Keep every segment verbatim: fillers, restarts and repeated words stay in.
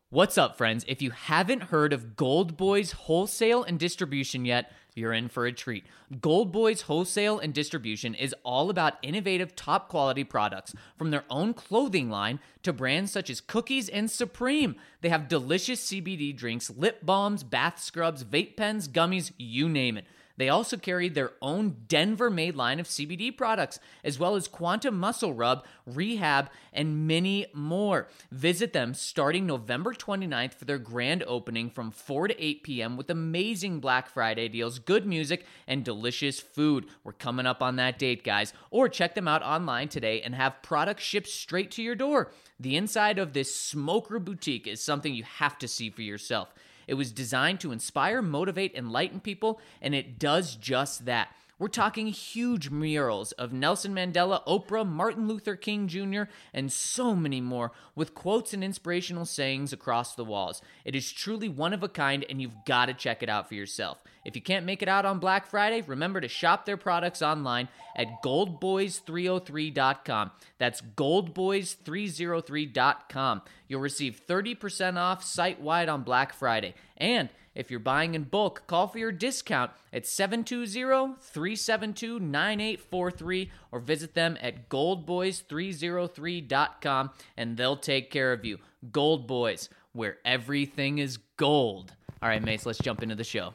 What's up, friends? If you haven't heard of Gold Boys Wholesale and Distribution yet, you're in for a treat. Gold Boys Wholesale and Distribution is all about innovative, top-quality products, from their own clothing line to brands such as Cookies and Supreme. They have delicious C B D drinks, lip balms, bath scrubs, vape pens, gummies, you name it. They also carry their own Denver-made line of C B D products, as well as Quantum Muscle Rub, Rehab, and many more. Visit them starting November twenty-ninth for their grand opening from four to eight p.m. with amazing Black Friday deals, good music, and delicious food. We're coming up on that date, guys. Or check them out online today and have products shipped straight to your door. The inside of this smoker boutique is something you have to see for yourself. It was designed to inspire, motivate, enlighten people, and it does just that. We're talking huge murals of Nelson Mandela, Oprah, Martin Luther King Junior, and so many more, with quotes and inspirational sayings across the walls. It is truly one of a kind, and you've got to check it out for yourself. If you can't make it out on Black Friday, remember to shop their products online at gold boys three oh three dot com. That's gold boys three oh three dot com. You'll receive thirty percent off site-wide on Black Friday. And if you're buying in bulk, call for your discount at seven two zero, three seven two, nine eight four three or visit them at gold boys three oh three dot com and they'll take care of you. Gold Boys, where everything is gold. All right, Mace, let's jump into the show.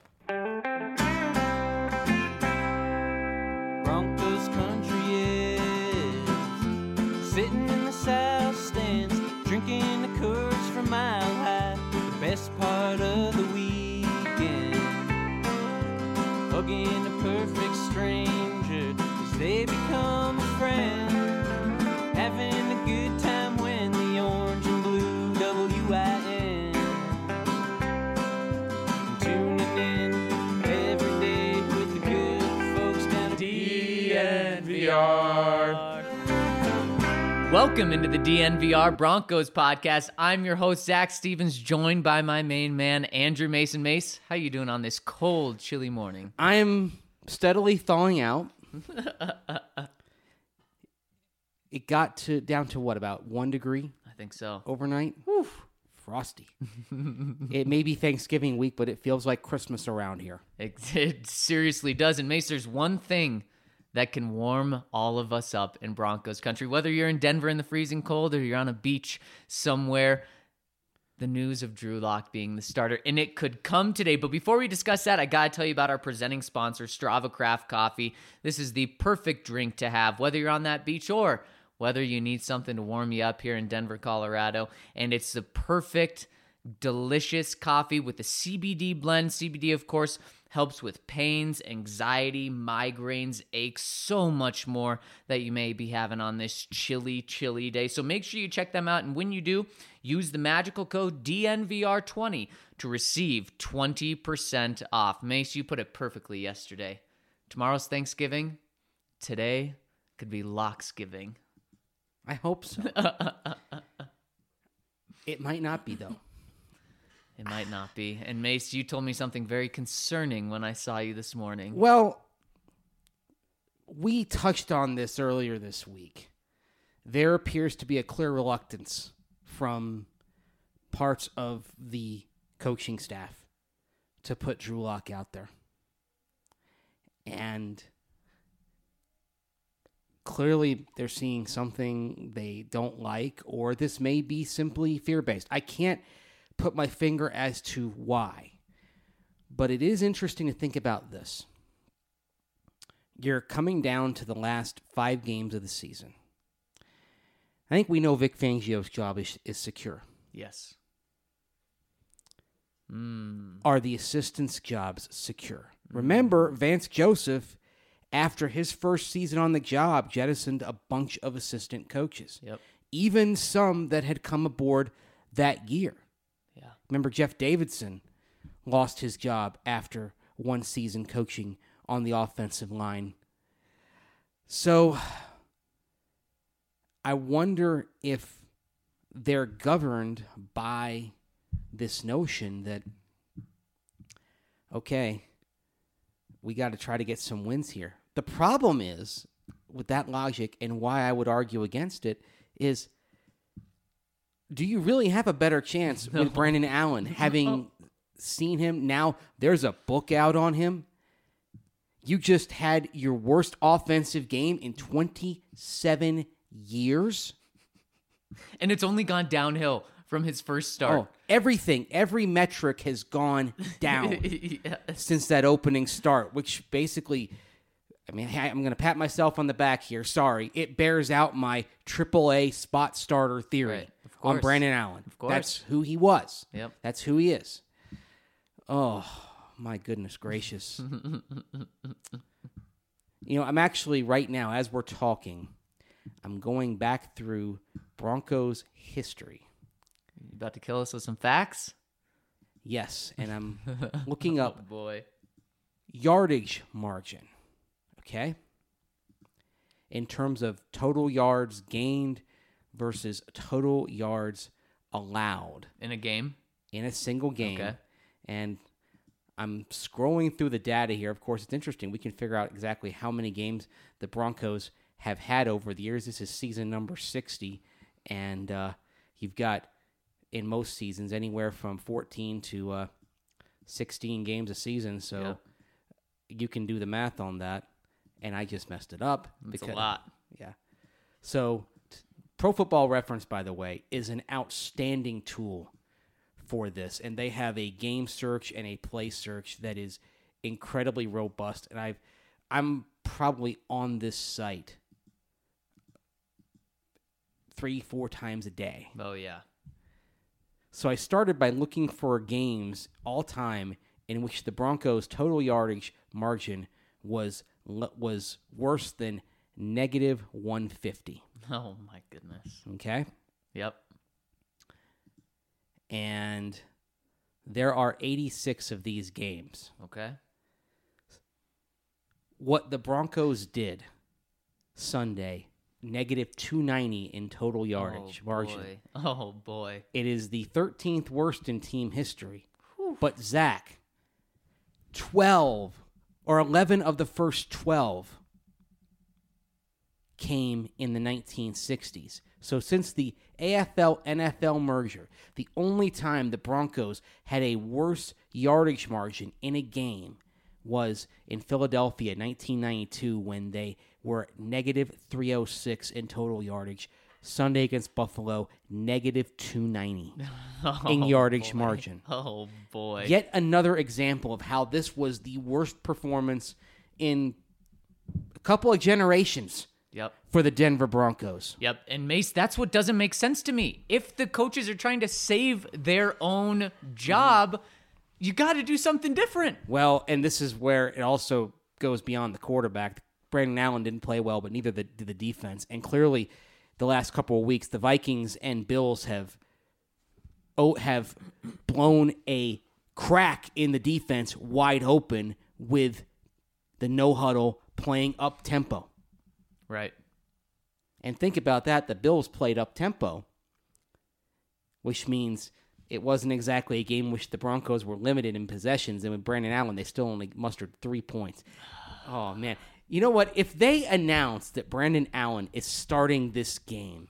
Broncos country is sitting in the south stands, drinking the Coors from Mile High, the best part of the weekend, hugging a perfect stranger as they become a friend, having a good time when the orange and blue W I N, tuning in every day with the good folks down at D N V R. Welcome into the D N V R Broncos podcast. I'm your host, Zach Stevens, joined by my main man, Andrew Mason. Mace, how you doing on this cold, chilly morning? I am steadily thawing out. It got to down to what, about one degree I think so. overnight? Whew, frosty. It may be Thanksgiving week, but it feels like Christmas around here. It, it seriously does. And Mace, there's one thing that can warm all of us up in Broncos country. Whether you're in Denver in the freezing cold or you're on a beach somewhere, the news of Drew Lock being the starter, and it could come today. But before we discuss that, I got to tell you about our presenting sponsor, Strava Craft Coffee. This is the perfect drink to have, whether you're on that beach or whether you need something to warm you up here in Denver, Colorado. And it's the perfect, delicious coffee with the C B D blend. C B D, of course, helps with pains, anxiety, migraines, aches, so much more that you may be having on this chilly, chilly day. So make sure you check them out. And when you do, use the magical code D N V R twenty to receive twenty percent off. Mace, you put it perfectly yesterday. Tomorrow's Thanksgiving. Today could be Locksgiving. I hope so. It might not be, though. It might not be. And Mace, you told me something very concerning when I saw you this morning. Well, we touched on this earlier this week. There appears to be a clear reluctance from parts of the coaching staff to put Drew Lock out there. And clearly they're seeing something they don't like, or this may be simply fear-based. I can't put my finger as to why. But it is interesting to think about this. You're coming down to the last five games of the season. I think we know Vic Fangio's job is, is secure. Yes. Mm. Are the assistants' jobs secure? Mm. Remember, Vance Joseph, after his first season on the job, jettisoned a bunch of assistant coaches. Yep. Even some that had come aboard that year. Yeah. Remember, Jeff Davidson lost his job after one season coaching on the offensive line. So I wonder if they're governed by this notion that, okay, we got to try to get some wins here. The problem is, with that logic, and why I would argue against it, is do you really have a better chance No. with Brandon Allen? Having seen him now, there's a book out on him. You just had your worst offensive game in twenty-seven years. And it's only gone downhill from his first start. Oh, everything, every metric has gone down Yes. since that opening start, which basically, I mean, I- I'm going to pat myself on the back here. Sorry. It bears out my triple A spot starter theory Right, of on course. Brandon Allen. Of course. That's who he was. Yep. That's who he is. Oh, my goodness gracious. You know, I'm actually right now, as we're talking, I'm going back through Broncos history. You about to kill us with some facts? Yes, and I'm looking Oh, up boy. yardage margin, okay? In terms of total yards gained versus total yards allowed In a game? in a single game. Okay. And I'm scrolling through the data here. Of course, it's interesting. We can figure out exactly how many games the Broncos have had over the years. This is season number sixty, and uh, you've got, in most seasons, anywhere from fourteen to uh, sixteen games a season. So Yep. you can do the math on that. And I just messed it up. It's a lot. Yeah. So t- Pro Football Reference, by the way, is an outstanding tool for this. And they have a game search and a play search that is incredibly robust. And I've, I'm probably on this site three, four times a day. Oh, yeah. So I started by looking for games all time in which the Broncos' total yardage margin was was worse than negative one fifty. Oh, my goodness. Okay? Yep. And there are eighty-six of these games. Okay. What the Broncos did Sunday, negative two ninety in total yardage oh, margin. Boy. Oh, boy. It is the thirteenth worst in team history. But Zach, twelve or eleven of the first twelve came in the nineteen sixties. So since the A F L N F L merger, the only time the Broncos had a worse yardage margin in a game was in Philadelphia, nineteen ninety-two, when they were negative three oh six in total yardage. Sunday against Buffalo, negative two ninety in Oh, yardage boy. margin. Oh, boy. Yet another example of how this was the worst performance in a couple of generations Yep. for the Denver Broncos. Yep. And Mace, that's what doesn't make sense to me. If the coaches are trying to save their own job, you got to do something different. Well, and this is where it also goes beyond the quarterback. Brandon Allen didn't play well, but neither did the defense. And clearly, the last couple of weeks, the Vikings and Bills have oh, have blown a crack in the defense wide open with the no-huddle playing up-tempo. Right. And think about that. The Bills played up-tempo, which means it wasn't exactly a game in which the Broncos were limited in possessions. And with Brandon Allen, they still only mustered three points. Oh, man. You know what? If they announce that Brandon Allen is starting this game,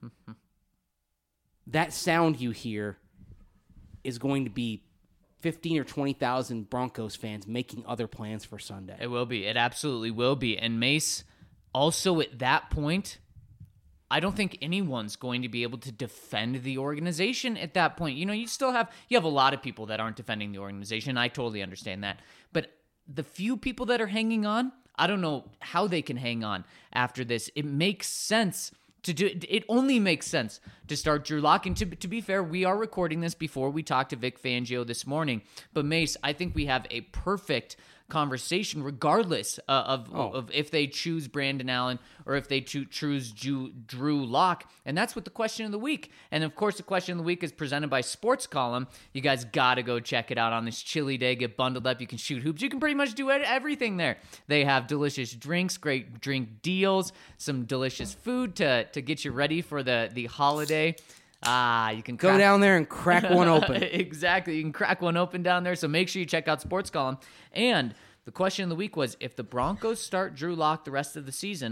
that sound you hear is going to be fifteen or twenty thousand Broncos fans making other plans for Sunday. It will be. It absolutely will be. And Mace, also at that point, I don't think anyone's going to be able to defend the organization at that point. You know, you still have you have a lot of people that aren't defending the organization. I totally understand that. But the few people that are hanging on, I don't know how they can hang on after this. It makes sense to do it. Only makes sense to start Drew Lock. And to, to be fair, we are recording this before we talked to Vic Fangio this morning. But Mace, I think we have a perfect conversation regardless uh, of, Oh. of if they choose Brandon Allen or if they cho- choose Drew, Drew Lock. And that's what the question of the week. And of course, the question of the week is presented by Sports Column. You guys got to go check it out on this chilly day. Get bundled up. You can shoot hoops. You can pretty much do everything there. They have delicious drinks, great drink deals, some delicious food to, to get you ready for the, the holiday. Ah, you can Go crack- down there and crack one open. Exactly. You can crack one open down there. So make sure you check out Sports Column. And the question of the week was, if the Broncos start Drew Lock the rest of the season,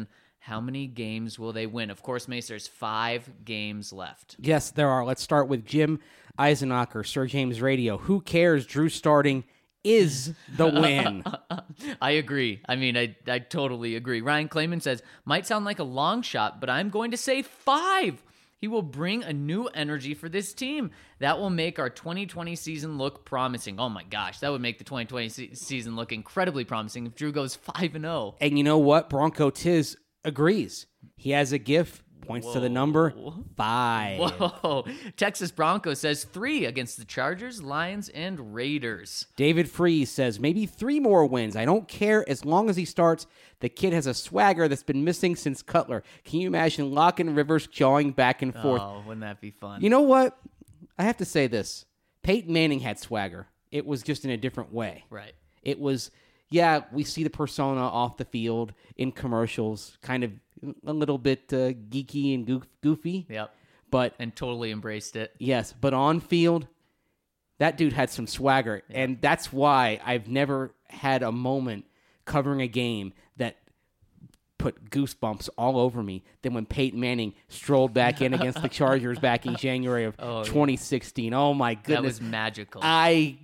How many games will they win? Of course, Mace, there's five games left. Yes, there are. Let's start with Jim Eisenacher, Sir James Radio. Who cares? Drew starting is the win. I agree. I mean, I, I totally agree. Ryan Clayman says, might sound like a long shot, but I'm going to say five. He will bring a new energy for this team. That will make our twenty twenty season look promising. Oh my gosh, that would make the twenty twenty se- season look incredibly promising if Drew goes five and oh. And you know what? Bronco Tiz agrees. He has a GIF, points Whoa. to the number five. Whoa. Texas Broncos says three against the Chargers, Lions, and Raiders. David Freeze says maybe three more wins. I don't care as long as he starts. The kid has a swagger that's been missing since Cutler. Can you imagine Locke and Rivers jawing back and forth? Oh, wouldn't that be fun? You know what? I have to say this. Peyton Manning had swagger. It was just in a different way. Right. It was, yeah, we see the persona off the field in commercials, kind of a little bit uh, geeky and goof, goofy. Yep. But, And totally embraced it. yes, but on field, that dude had some swagger. Yeah. And that's why I've never had a moment covering a game that put goosebumps all over me than when Peyton Manning strolled back in against the Chargers back in January of Oh, yeah. twenty sixteen. Oh, my That goodness. was magical. I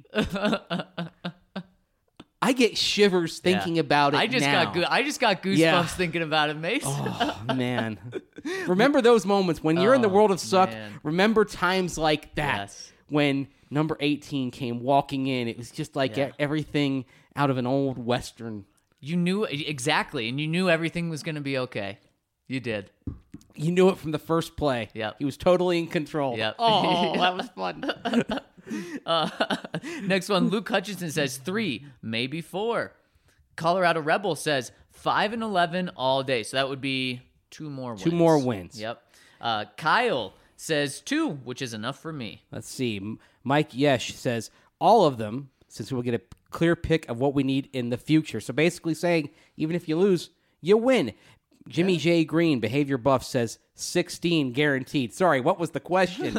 I get shivers thinking Yeah. about it I just now. got go- I just got goosebumps Yeah. thinking about it, Mace. Oh, man. Remember those moments when you're in the Oh, world of suck. man. Remember times like that Yes. when number eighteen came walking in. It was just like Yeah. e- everything out of an old Western. You knew exactly, and you knew everything was going to be okay. You did. You knew it from the first play. Yep. He was totally in control. Yep. Oh, that was fun. Uh, next one, Luke Hutchinson says three, maybe four. Colorado Rebel says five and eleven all day, so that would be two more wins. Two more wins. Yep. Uh, Kyle says two, which is enough for me. Let's see. M- Mike Yesh says all of them, since we'll get a clear pick of what we need in the future. So basically saying, even if you lose, you win. Jimmy J. Green, Behavior Buff, says sixteen guaranteed. Sorry, what was the question?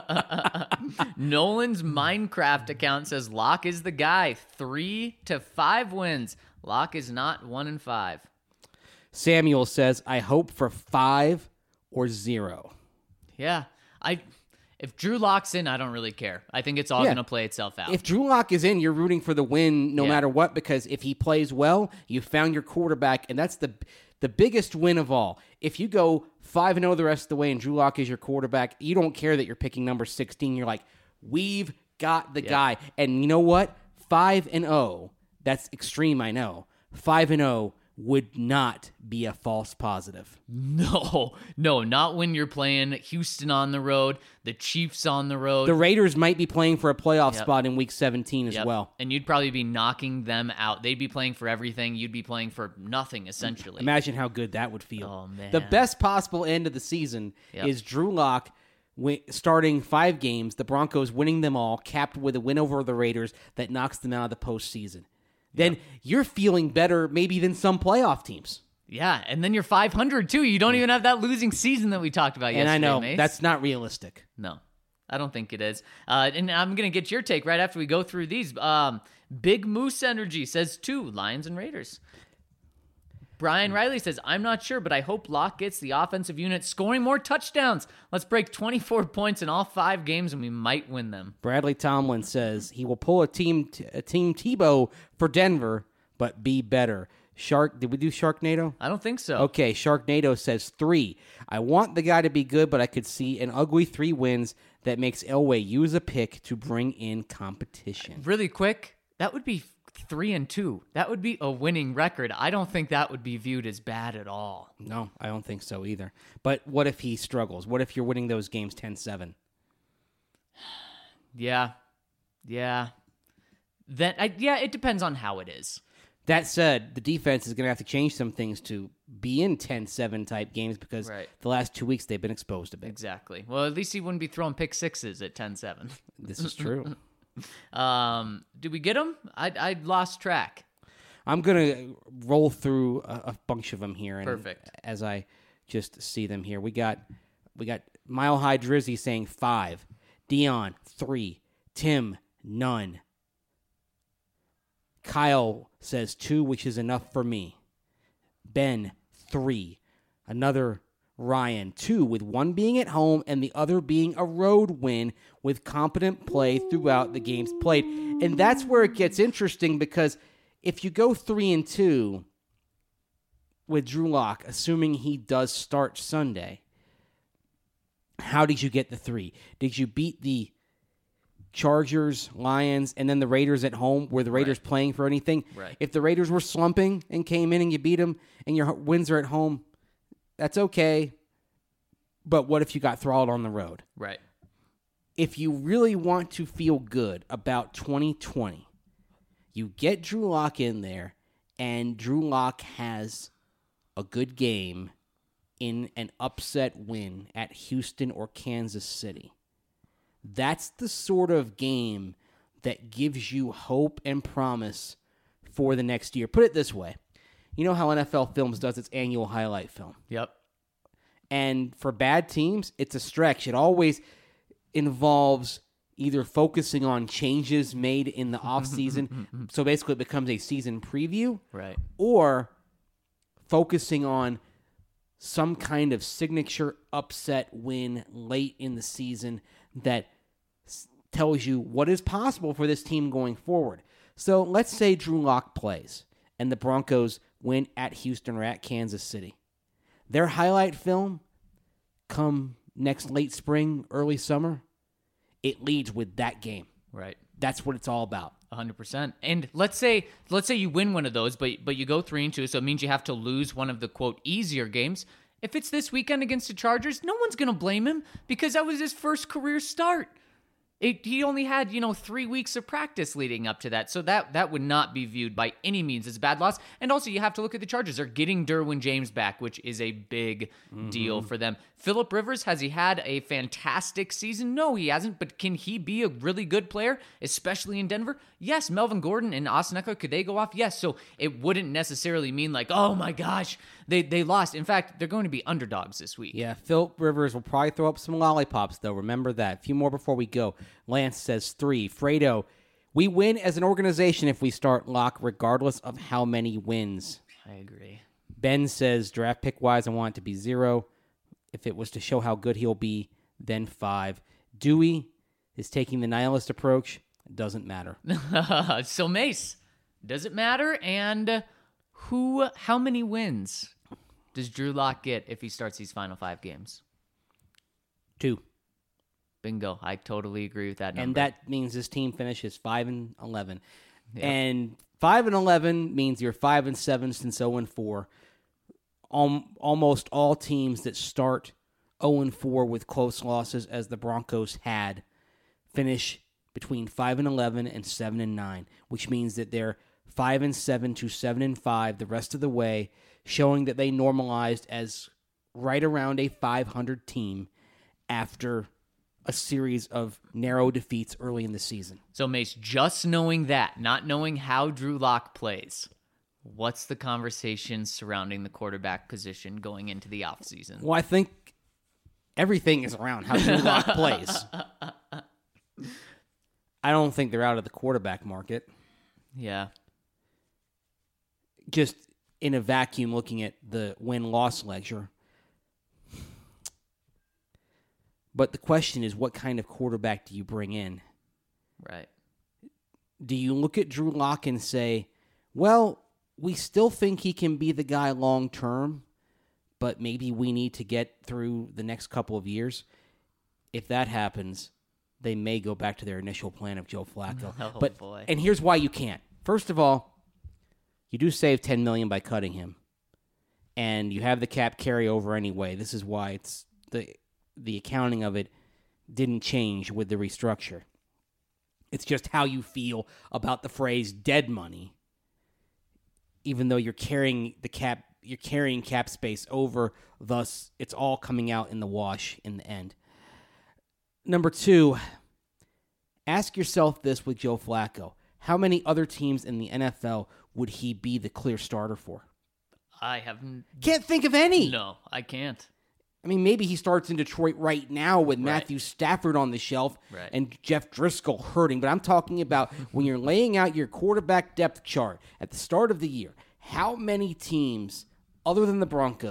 Nolan's Minecraft account says Locke is the guy. Three to five wins. Locke is not one and five. Samuel says, I hope for five or zero. Yeah. I if Drew locks in, I don't really care. I think it's all Yeah. going to play itself out. If Drew Lock is in, you're rooting for the win no Yeah. matter what, because if he plays well, you found your quarterback, and that's the the biggest win of all. If you go five and oh the rest of the way and Drew Lock is your quarterback, you don't care that you're picking number sixteen. You're like, we've got the Yeah. guy. And you know what? five and oh, that's extreme, I know. five and oh would not be a false positive. No, no, not when you're playing Houston on the road, the Chiefs on the road. The Raiders might be playing for a playoff Yep. spot in week seventeen as Yep. well. And you'd probably be knocking them out. They'd be playing for everything. You'd be playing for nothing, essentially. Imagine how good that would feel. Oh, man. The best possible end of the season Yep. is Drew Lock wi- starting five games, the Broncos winning them all, capped with a win over the Raiders that knocks them out of the postseason. Then you're feeling better maybe than some playoff teams. Yeah, and then you're five hundred, too. You don't even have that losing season that we talked about And yesterday, I know Mace. that's not realistic. No, I don't think it is. Uh, and I'm going to get your take right after we go through these. Um, Big Moose Energy says two, Lions and Raiders. Brian Riley says, I'm not sure, but I hope Locke gets the offensive unit scoring more touchdowns. Let's break twenty-four points in all five games, and we might win them. Bradley Tomlin says he will pull a team a team Tebow for Denver, but be better. Shark, did we do Sharknado? I don't think so. Okay, Sharknado says three. I want the guy to be good, but I could see an ugly three wins that makes Elway use a pick to bring in competition. Really quick, that would be three and two. That would be a winning record. I don't think that would be viewed as bad at all. No, I don't think so either. But what if he struggles? What if you're winning those games ten seven? Yeah. Yeah. Then I, yeah, it depends on how it is. That said, the defense is going to have to change some things to be in ten seven type games because Right. the last two weeks they've been exposed a bit. Exactly. Well, at least he wouldn't be throwing pick sixes at ten seven. This is true. Um, did we get him? I I lost track. I'm going to roll through a, a bunch of them here. And Perfect. As I just see them here. We got we got Mile High Drizzy saying five. Dion, three. Tim, none. Kyle says two, which is enough for me. Ben, three. Another Ryan, two, with one being at home and the other being a road win with competent play throughout the games played. And that's where it gets interesting, because if you go three and two with Drew Lock, assuming he does start Sunday, how did you get the three? Did you beat the Chargers, Lions, and then the Raiders at home? Were the Raiders Right. playing for anything? Right. If the Raiders were slumping and came in and you beat them and your wins are at home, that's okay. But what if you got throttled on the road? Right. If you really want to feel good about twenty twenty, you get Drew Lock in there, and Drew Lock has a good game in an upset win at Houston or Kansas City. That's the sort of game that gives you hope and promise for the next year. Put it this way. You know how N F L Films does its annual highlight film? Yep. And for bad teams, it's a stretch. It always involves either focusing on changes made in the offseason, so basically it becomes a season preview, Right. or focusing on some kind of signature upset win late in the season that s- tells you what is possible for this team going forward. So let's say Drew Lock plays and the Broncos win at Houston or at Kansas City. Their highlight film come next late spring, early summer, it leads with that game. Right. That's what it's all about. one hundred percent. And let's say let's say you win one of those, but but you go three and two, so it means you have to lose one of the, quote, easier games. If it's this weekend against the Chargers, no one's going to blame him because that was his first career start. It, he only had, you know, three weeks of practice leading up to that. So that that would not be viewed by any means as a bad loss. And also, you have to look at the Chargers. They're getting Derwin James back, which is a big mm-hmm. deal for them. Phillip Rivers, has he had a fantastic season? No, he hasn't. But can he be a really good player, especially in Denver? Yes. Melvin Gordon and Austin Eckler, could they go off? Yes. So it wouldn't necessarily mean like, oh my gosh, they, they lost. In fact, they're going to be underdogs this week. Yeah, Phillip Rivers will probably throw up some lollipops, though. Remember that. A few more before we go. Lance says three. Fredo, we win as an organization if we start Lock, regardless of how many wins. I agree. Ben says, draft pick-wise, I want it to be zero. If it was to show how good he'll be, then five. Dewey is taking the nihilist approach. It doesn't matter. So, Mace, does it matter? And who, how many wins does Drew Lock get if he starts these final five games? Two. Bingo. I totally agree with that number. And that means this team finishes five and eleven. Yeah. And five and eleven means you're five and seven since zero and four. Um, almost all teams that start zero and four with close losses, as the Broncos had, finish between five and eleven and seven and nine, which means that they're five and seven to seven and five the rest of the way, showing that they normalized as right around a five hundred team after a series of narrow defeats early in the season. So, Mace, just knowing that, not knowing how Drew Lock plays, what's the conversation surrounding the quarterback position going into the offseason? Well, I think everything is around how Drew Lock plays. I don't think they're out of the quarterback market. Yeah. Just in a vacuum, looking at the win-loss ledger. But the question is, what kind of quarterback do you bring in? Right. Do you look at Drew Lock and say, well, we still think he can be the guy long-term, but maybe we need to get through the next couple of years? If that happens, they may go back to their initial plan of Joe Flacco. Oh, but, boy. And here's why you can't. First of all, you do save ten million dollars by cutting him, and you have the cap carryover anyway. This is why it's the the accounting of it didn't change with the restructure. It's just how you feel about the phrase dead money, even though you're carrying the cap, you're carrying cap space over, thus it's all coming out in the wash in the end. Number two, ask yourself this with Joe Flacco. How many other teams in the N F L would he be the clear starter for? I haven't. Can't think of any. No, I can't. I mean, maybe he starts in Detroit right now with Right. Matthew Stafford on the shelf Right. and Jeff Driscoll hurting. But I'm talking about when you're laying out your quarterback depth chart at the start of the year, how many teams other than the Broncos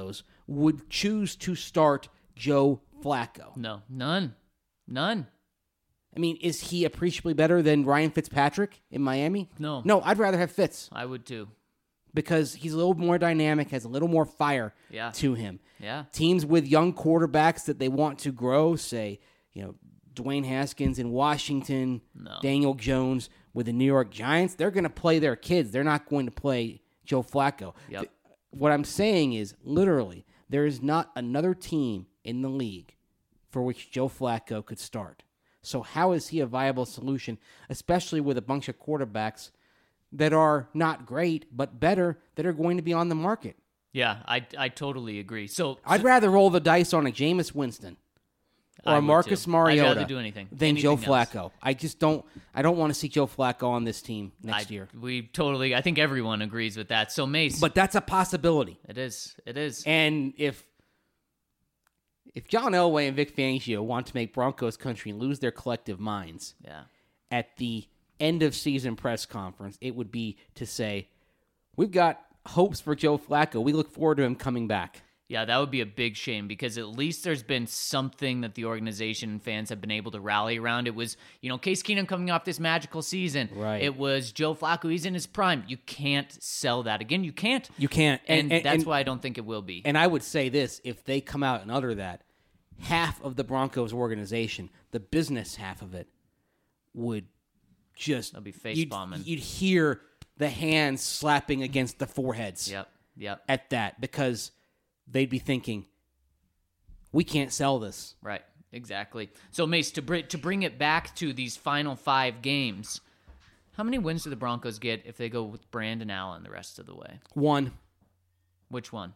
would choose to start Joe Flacco? No, none. None. I mean, is he appreciably better than Ryan Fitzpatrick in Miami? No. No, I'd rather have Fitz I would too. because he's a little more dynamic, has a little more fire Yeah. to him. Yeah. Teams with young quarterbacks that they want to grow, say, you know, Dwayne Haskins in Washington, No. Daniel Jones with the New York Giants, they're going to play their kids. They're not going to play Joe Flacco. Yep. Th- What I'm saying is, literally, there is not another team in the league for which Joe Flacco could start. So how is he a viable solution, especially with a bunch of quarterbacks that are not great, but better, that are going to be on the market? Yeah, I, I totally agree. So I'd rather roll the dice on a Jameis Winston or I a would Marcus too. Mariota I'd rather do anything than Joe anything else. Flacco. I just don't. I don't want to see Joe Flacco on this team next I- year. We totally, I think everyone agrees with that. So Mace, But that's a possibility. it is, it is. And if if John Elway and Vic Fangio want to make Broncos country lose their collective minds Yeah. at the end of season press conference, it would be to say, "We've got hopes for Joe Flacco. We look forward to him coming back." Yeah, that would be a big shame because at least there's been something that the organization and fans have been able to rally around. It was, you know, Case Keenum coming off this magical season. Right. It was Joe Flacco. He's in his prime. You can't sell that again. You can't. You can't. And, And, and, that's and, why I don't think it will be. And I would say this: if they come out and utter that, half of the Broncos organization, the business half of it, would just They'll be face you'd, bombing. You'd hear the hands slapping against the foreheads Yep. Yep. at that because they'd be thinking, "We can't sell this." Right. Exactly. So Mace, to br- to bring it back to these final five games, how many wins do the Broncos get if they go with Brandon Allen the rest of the way? One, Which one?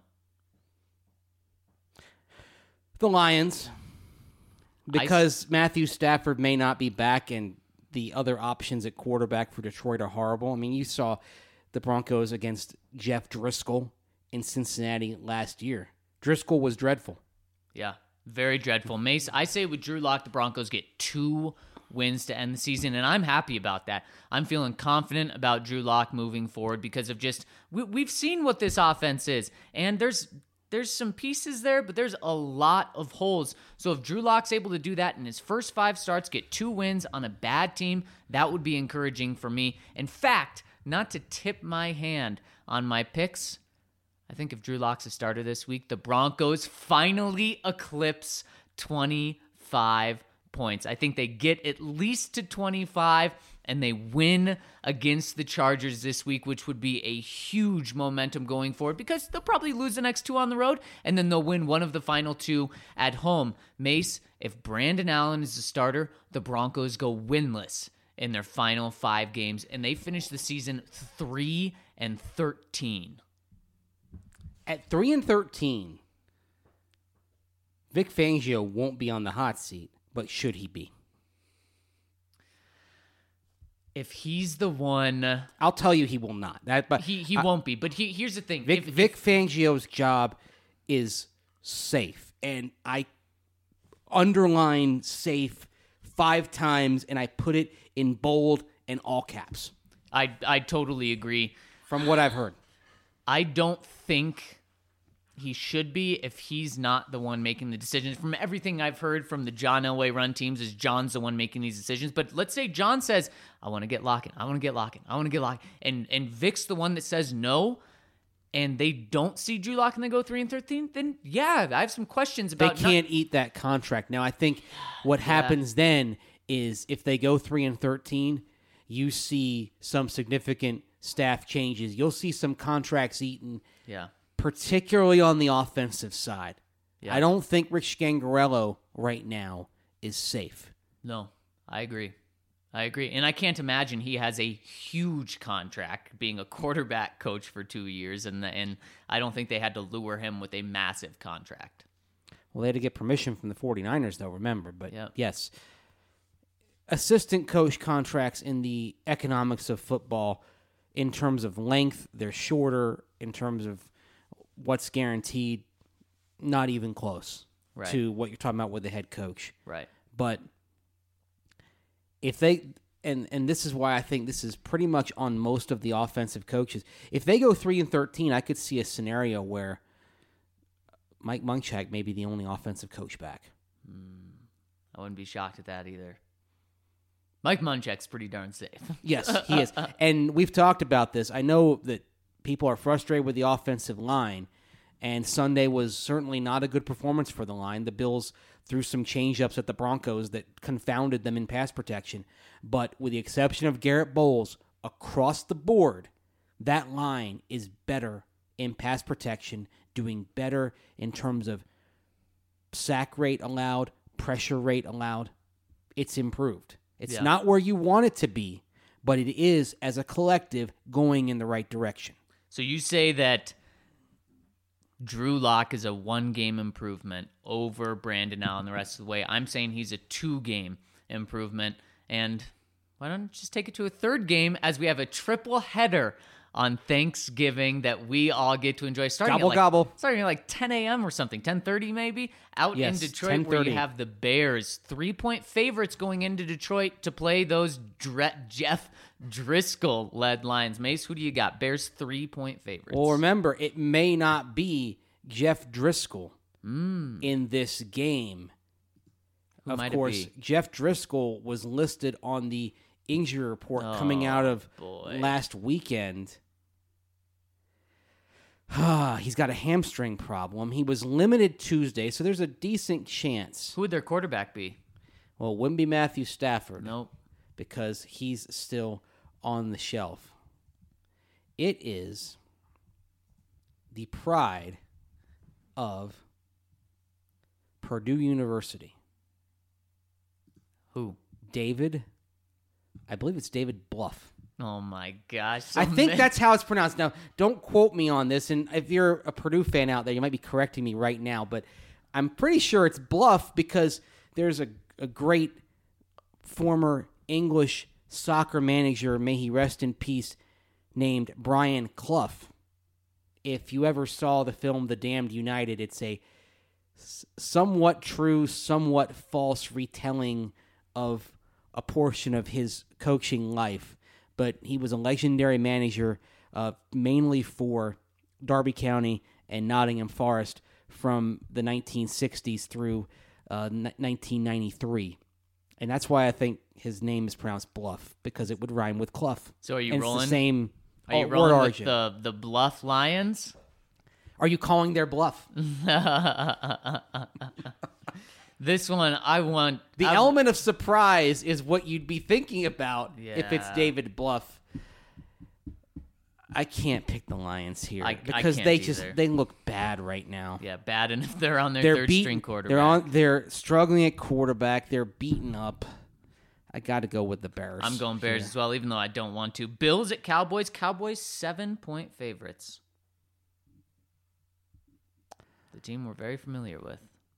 the Lions, because Matthew Stafford may not be back and the other options at quarterback for Detroit are horrible. I mean, you saw the Broncos against Jeff Driscoll in Cincinnati last year. Driscoll was dreadful. Yeah, very dreadful. Mace, I say with Drew Lock, the Broncos get two wins to end the season, and I'm happy about that. I'm feeling confident about Drew Lock moving forward because of just we, we've seen what this offense is, and there's there's some pieces there, but there's a lot of holes. So if Drew Lock's able to do that in his first five starts, get two wins on a bad team, that would be encouraging for me. In fact, not to tip my hand on my picks, I think if Drew Lock's a starter this week, the Broncos finally eclipse twenty-five points. I think they get at least to twenty-five, and they win against the Chargers this week, which would be a huge momentum going forward because they'll probably lose the next two on the road, and then they'll win one of the final two at home. Mace, if Brandon Allen is the starter, the Broncos go winless in their final five games, and they finish the season three and thirteen. At three and thirteen, Vic Fangio won't be on the hot seat, but should he be? If he's the one, I'll tell you he will not. That, but he he I- won't be. But he, here's the thing: Vic, if, Vic Fangio's job is safe, and I underline safe five times, and I put it in bold and all caps I I totally agree. from what I've heard. I don't think he should be if he's not the one making the decisions. From everything I've heard from the John Elway run teams, is John's the one making these decisions. But let's say John says, "I want to get Lockett. I want to get Lockett. I want to get Lockett," and and Vic's the one that says no, and they don't see Drew Lock and they go three and thirteen. Then yeah, I have some questions They about. can't eat that contract. Now, I think what happens then is if they go three and thirteen, you see some significant staff changes. You'll see some contracts eaten, yeah. particularly on the offensive side. Yeah. I don't think Rich Scangarello right now is safe. No, I agree. I agree. And I can't imagine he has a huge contract being a quarterback coach for two years, and and I don't think they had to lure him with a massive contract. Well, they had to get permission from the 49ers, though, remember. But Yep. yes, assistant coach contracts in the economics of football, in terms of length, they're shorter. In terms of what's guaranteed, not even close Right. to what you're talking about with the head coach. Right. But if they, and and this is why I think this is pretty much on most of the offensive coaches. If they go three and thirteen, I could see a scenario where Mike Munchak may be the only offensive coach back. I wouldn't be shocked at that either. Mike Munchak's pretty darn safe. Yes, he is. And we've talked about this. I know that people are frustrated with the offensive line, and Sunday was certainly not a good performance for the line. The Bills threw some change-ups at the Broncos that confounded them in pass protection. But with the exception of Garrett Bowles, across the board, that line is better in pass protection, doing better in terms of sack rate allowed, pressure rate allowed. It's improved. It's Yeah. not where you want it to be, but it is, as a collective, going in the right direction. So you say that Drew Lock is a one-game improvement over Brandon Allen the rest of the way. I'm saying he's a two-game improvement. And why don't you just take it to a third game as we have a triple header on Thanksgiving that we all get to enjoy. Starting Gobble, at like, gobble. Starting at like ten a.m. or something, ten thirty maybe, out Yes, in Detroit where you ten thirty. have the Bears, three-point favorites going into Detroit to play those Dre- Jeff Driscoll-led Lions. Mace, who do you got? Bears three-point favorites. Well, remember, it may not be Jeff Driscoll Mm. in this game. Who of might it course, be? Jeff Driscoll was listed on the injury report coming out of boy. last weekend. He's got a hamstring problem. He was limited Tuesday, so there's a decent chance. Who would their quarterback be? Well, it wouldn't be Matthew Stafford Nope. because he's still on the shelf. It is the pride of Purdue University. Who? David, I believe it's David Bluff. Oh my gosh. so I think many- that's how it's pronounced. Now, don't quote me on this, and if you're a Purdue fan out there, you might be correcting me right now, but I'm pretty sure it's Bluff because there's a, a great former English soccer manager, may he rest in peace, named Brian Clough. If you ever saw the film The Damned United, it's a s- somewhat true, somewhat false retelling of a portion of his coaching life. But he was a legendary manager, uh, mainly for Derby County and Nottingham Forest from the nineteen sixties through uh, n- nineteen ninety-three. And that's why I think his name is pronounced Bluff, because it would rhyme with Clough. So are you And rolling? It's the same Are you word rolling with origin. the, the Bluff Lions? Are you calling their bluff? This one, I want... The I, element of surprise is what you'd be thinking about if it's Yeah. David Bluff. I can't pick the Lions here I- I because can't they just either. they look bad right now. Yeah, bad enough they're on their They're third beaten, string quarterback. They're on. They're struggling at quarterback. They're beaten up. I got to go with the Bears. I'm going Bears here. as well, even though I don't want to. Bills at Cowboys. Cowboys seven-point favorites. The team we're very familiar with.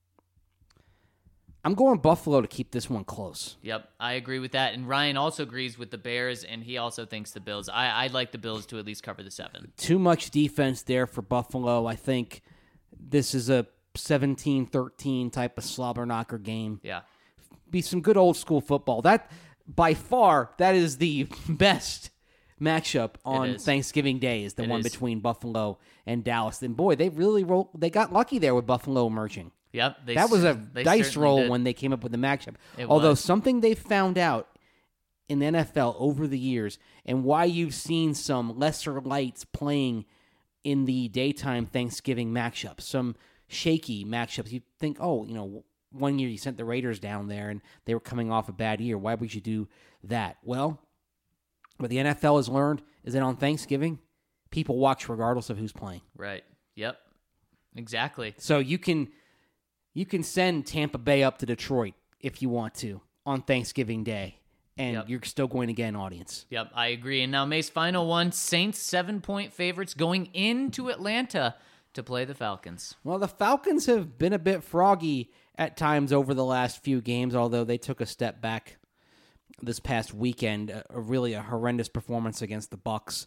I'm going Buffalo to keep this one close. Yep, I agree with that. And Ryan also agrees with the Bears, and he also thinks the Bills. I, I'd like the Bills to at least cover the seven. Too much defense there for Buffalo. I think this is a seventeen thirteen type of slobber knocker game. Yeah. Be some good old school football. That, by far, that is the best matchup on is. Thanksgiving Day, is the It one is. between Buffalo and Dallas. And boy, they really roll, they got lucky there with Buffalo emerging. Yep. They That was a cer- they dice certainly roll did. when they came up with the matchup. It Although was. something they've found out in the N F L over the years, and why you've seen some lesser lights playing in the daytime Thanksgiving matchups, some shaky matchups. You think, oh, you know, one year you sent the Raiders down there and they were coming off a bad year. Why would you do that? Well, what the N F L has learned is that on Thanksgiving, people watch regardless of who's playing. Right. Yep. Exactly. So you can you can send Tampa Bay up to Detroit if you want to on Thanksgiving Day, and Yep. you're still going to get an audience. Yep, I agree. And now Mace, final one. Saints seven-point favorites going into Atlanta to play the Falcons. Well, the Falcons have been a bit froggy at times over the last few games, although they took a step back this past weekend. A, a really a horrendous performance against the Bucks.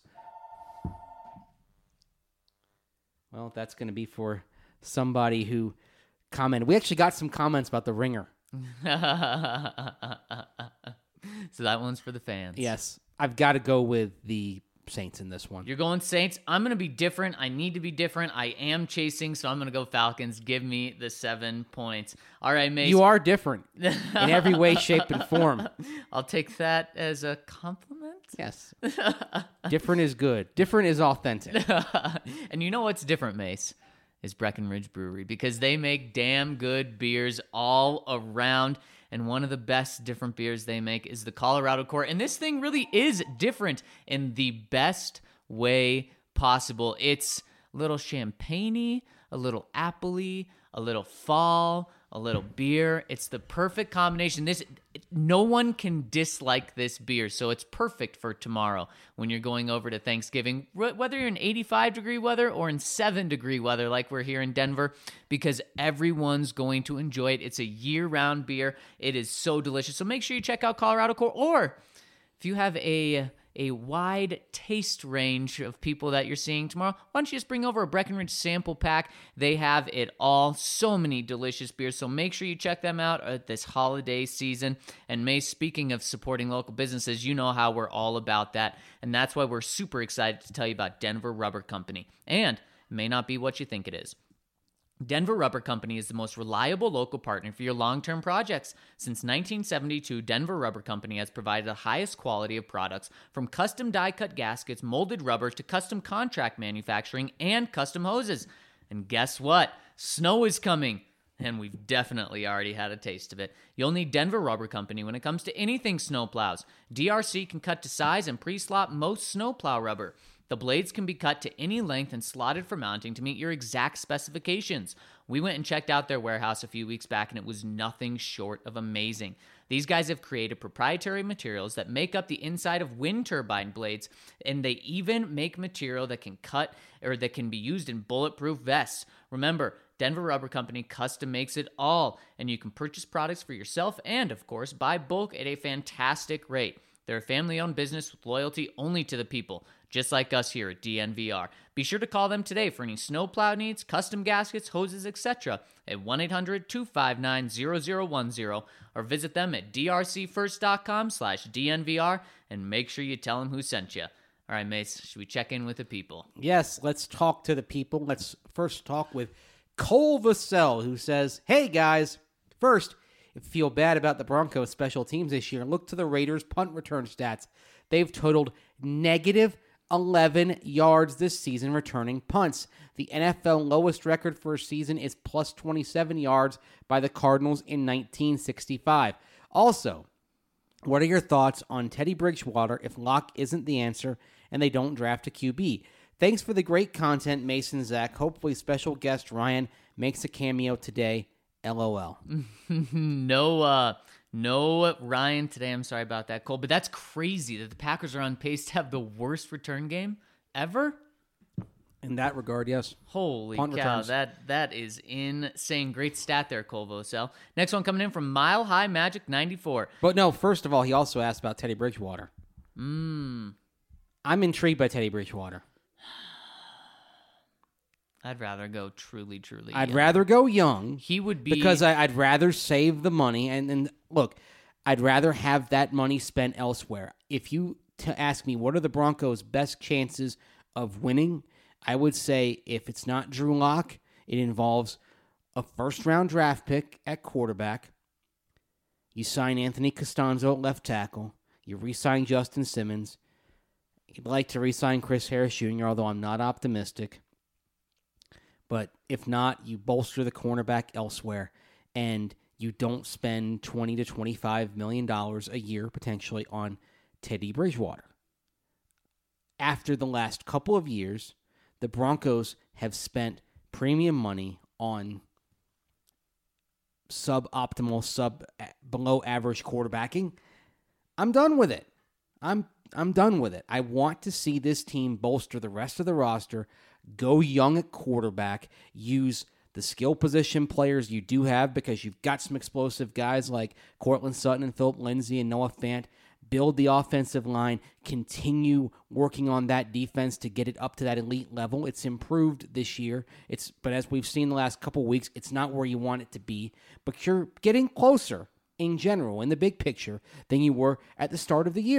Well, that's going to be for somebody who commented. We actually got some comments about the Ringer. So that one's for the fans. Yes, I've got to go with the Saints in this one. You're going Saints. I'm going to be different. I need to be different. I am chasing, so I'm going to go Falcons. Give me the seven points. All right, Mace. You are different in every way, shape, and form. I'll take that as a compliment. Yes. Different is good. Different is authentic. And you know what's different, Mace? Is Breckenridge Brewery, because they make damn good beers all around. And one of the best different beers they make is the Colorado Core. And this thing really is different in the best way possible. It's a little champagne-y, a little apple-y, a little fall, a little beer. It's the perfect combination. This no one can dislike this beer, so it's perfect for tomorrow when you're going over to Thanksgiving, whether you're in eighty-five degree weather or in seven degree weather like we're here in Denver, because everyone's going to enjoy it. It's a year-round beer. It is so delicious. So make sure you check out Colorado Core, or if you have a a wide taste range of people that you're seeing tomorrow, why don't you just bring over a Breckenridge sample pack? They have it all. So many delicious beers. So make sure you check them out at this holiday season. And May, speaking of supporting local businesses, you know how we're all about that. And that's why we're super excited to tell you about Denver Rubber Company. And it may not be what you think it is. Denver Rubber Company is the most reliable local partner for your long-term projects. Since nineteen seventy-two, Denver Rubber Company has provided the highest quality of products, from custom die-cut gaskets, molded rubber, to custom contract manufacturing and custom hoses. And guess what? Snow is coming, and we've definitely already had a taste of it. You'll need Denver Rubber Company when it comes to anything snowplows. D R C can cut to size and pre-slot most snowplow rubber. The blades can be cut to any length and slotted for mounting to meet your exact specifications. We went and checked out their warehouse a few weeks back, and it was nothing short of amazing. These guys have created proprietary materials that make up the inside of wind turbine blades, and they even make material that can cut or that can be used in bulletproof vests. Remember, Denver Rubber Company custom makes it all, and you can purchase products for yourself and, of course, buy bulk at a fantastic rate. They're a family-owned business with loyalty only to the people, just like us here at D N V R. Be sure to call them today for any snowplow needs, custom gaskets, hoses, et cetera at one eight hundred two five nine zero zero one zero, or visit them at drcfirst.com slash DNVR and make sure you tell them who sent you. All right, Mace, should we check in with the people? Yes, let's talk to the people. Let's first talk with Cole Vassell, who says, "Hey, guys. First, if you feel bad about the Broncos' special teams this year, look to the Raiders' punt return stats. They've totaled negative eleven yards this season returning punts. The N F L lowest record for a season is plus twenty-seven yards by the Cardinals in nineteen sixty-five. Also, what are your thoughts on Teddy Bridgewater if Locke isn't the answer and they don't draft a Q B? Thanks for the great content, Mason Zach. Hopefully special guest Ryan makes a cameo today. LOL." no, uh, no Ryan today. I'm sorry about that, Cole. But that's crazy that the Packers are on pace to have the worst return game ever. In that regard, yes. Holy Punt cow, returns. that that is insane. Great stat there, Cole Vassell. Next one coming in from Mile High Magic ninety-four. But no, first of all, he also asked about Teddy Bridgewater. Mm. I'm intrigued by Teddy Bridgewater. I'd rather go truly, truly I'd young. rather go young. He would be... Because I, I'd rather save the money. And, and look, I'd rather have that money spent elsewhere. If you to ask me, what are the Broncos' best chances of winning? I would say if it's not Drew Lock, it involves a first-round draft pick at quarterback. You sign Anthony Costanzo at left tackle. You re-sign Justin Simmons. You'd like to re-sign Chris Harris Junior, although I'm not optimistic. But if not, you bolster the cornerback elsewhere, and you don't spend twenty to twenty-five million dollars a year potentially on Teddy Bridgewater. After the last couple of years, the Broncos have spent premium money on suboptimal, sub below average quarterbacking. I'm done with it. I'm I'm done with it. I want to see this team bolster the rest of the roster, go young at quarterback, use the skill position players you do have because you've got some explosive guys like Cortland Sutton and Philip Lindsay and Noah Fant. Build the offensive line, continue working on that defense to get it up to that elite level. It's improved this year. It's but as we've seen the last couple of weeks, it's not where you want it to be. But you're getting closer in general, in the big picture, than you were at the start of the year.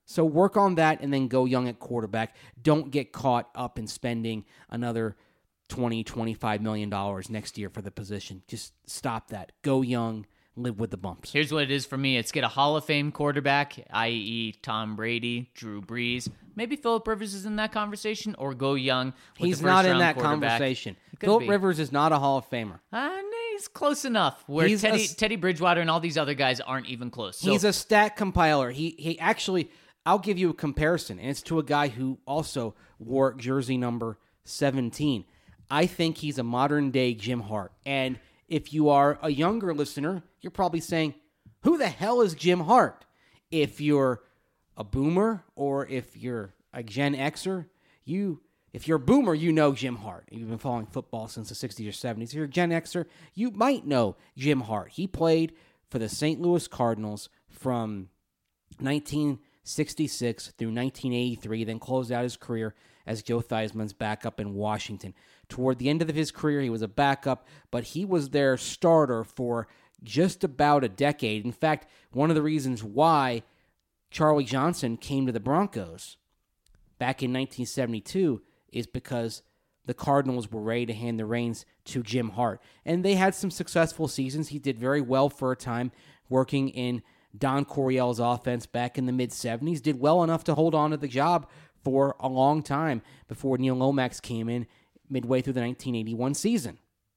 So work on that and then go young at quarterback. Don't get caught up in spending another twenty, twenty-five million dollars next year for the position. Just stop that. Go young, live with the bumps. Here's what it is for me. It's get a Hall of Fame quarterback, that is. Tom Brady, Drew Brees. Maybe Phillip Rivers is in that conversation, or go young with He's the not in first-round that quarterback. conversation. Could Phillip be. Rivers is not a Hall of Famer. Uh, he's close enough. Where He's Teddy, a s- Teddy Bridgewater and all these other guys aren't even close. So, He's a stat compiler. He he actually, I'll give you a comparison, and it's to a guy who also wore jersey number seventeen. I think he's a modern-day Jim Hart. And if you are a younger listener, you're probably saying, who the hell is Jim Hart? If you're a boomer or if you're a Gen Xer, you... If you're a boomer, you know Jim Hart. You've been following football since the sixties or seventies. If you're a Gen Xer, you might know Jim Hart. He played for the Saint Louis Cardinals from nineteen sixty-six through nineteen eighty-three, then closed out his career as Joe Theismann's backup in Washington. Toward the end of his career, he was a backup, but he was their starter for just about a decade. In fact, one of the reasons why Charlie Johnson came to the Broncos back in nineteen seventy-two is because the Cardinals were ready to hand the reins to Jim Hart. And they had some successful seasons. He did very well for a time working in Don Coryell's offense back in the mid-seventies. Did well enough to hold on to the job for a long time before Neil Lomax came in midway through the nineteen eighty-one season.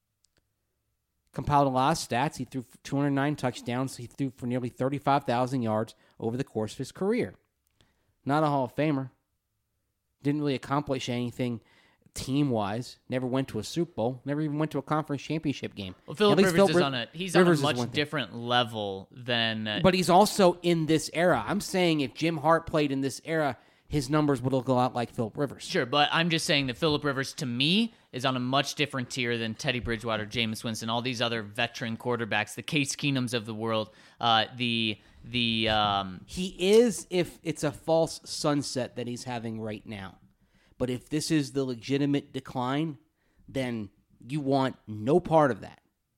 Compiled a lot of stats. He threw two hundred nine touchdowns. He threw for nearly thirty-five thousand yards over the course of his career. Not a Hall of Famer. Didn't really accomplish anything team-wise. Never went to a Super Bowl. Never even went to a conference championship game. well, Phillip At least Rivers Phillip is Riv- on a he's Rivers is on a one much thing. different level than. Uh, But he's also in this era. I'm saying if Jim Hart played in this era, his numbers would look a lot like Phillip Rivers. Sure, but I'm just saying that Phillip Rivers, to me, is on a much different tier than Teddy Bridgewater, Jameis Winston, all these other veteran quarterbacks, the Case Keenums of the world, uh, the the um, He is if it's a false sunset that he's having right now. But if this is the legitimate decline, then you want no part of that.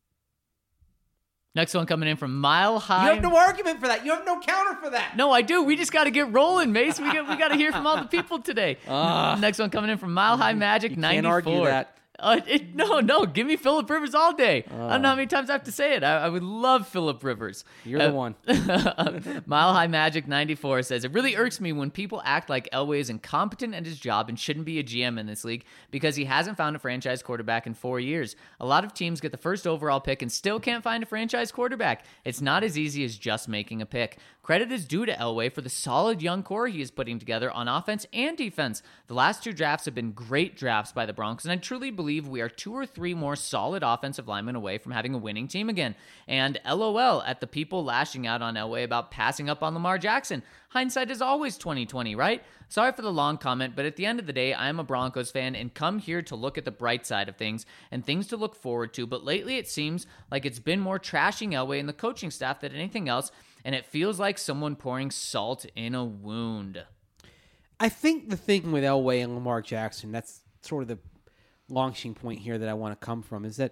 next one coming in from Mile High. You have no argument for that. You have no counter for that. No, I do. We just got to get rolling, Mace. We got we got to hear from all the people today. Next one coming in from Mile High Magic You ninety-four. can't argue that. Uh, it, no, no. Give me Phillip Rivers all day. I don't know how many times I have to say it. I, I would love Phillip Rivers. You're Uh, the one. Mile High Magic ninety-four says, it really irks me when people act like Elway is incompetent at his job and shouldn't be a G M in this league because he hasn't found a franchise quarterback in four years. A lot of teams get the first overall pick and still can't find a franchise quarterback. It's not as easy as just making a pick. Credit is due to Elway for the solid young core he is putting together on offense and defense. The last two drafts have been great drafts by the Broncos, and I truly believe we are two or three more solid offensive linemen away from having a winning team again. And LOL at the people lashing out on Elway about passing up on Lamar Jackson. Hindsight is always twenty twenty, right? Sorry for the long comment, but at the end of the day, I am a Broncos fan and come here to look at the bright side of things and things to look forward to. But lately it seems like it's been more trashing Elway and the coaching staff than anything else, and it feels like someone pouring salt in a wound. I think the thing with Elway and Lamar Jackson, that's sort of the launching point here that I want to come from, is that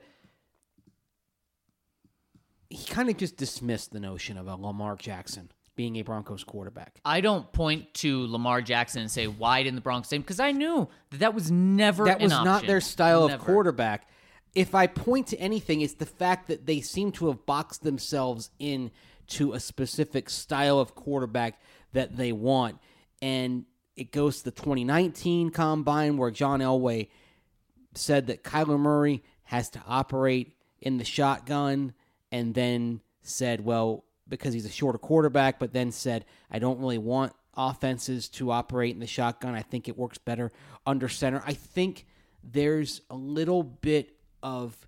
he kind of just dismissed the notion of a Lamar Jackson being a Broncos quarterback. I don't point to Lamar Jackson and say, why didn't the Broncos take him? Because I knew that that was never That an was not option. their style Never. of quarterback. If I point to anything, it's the fact that they seem to have boxed themselves in to a specific style of quarterback that they want. And it goes to the twenty nineteen Combine where John Elway said that Kyler Murray has to operate in the shotgun, and then said, well, because he's a shorter quarterback, but then said, I don't really want offenses to operate in the shotgun. I think it works better under center. I think there's a little bit of,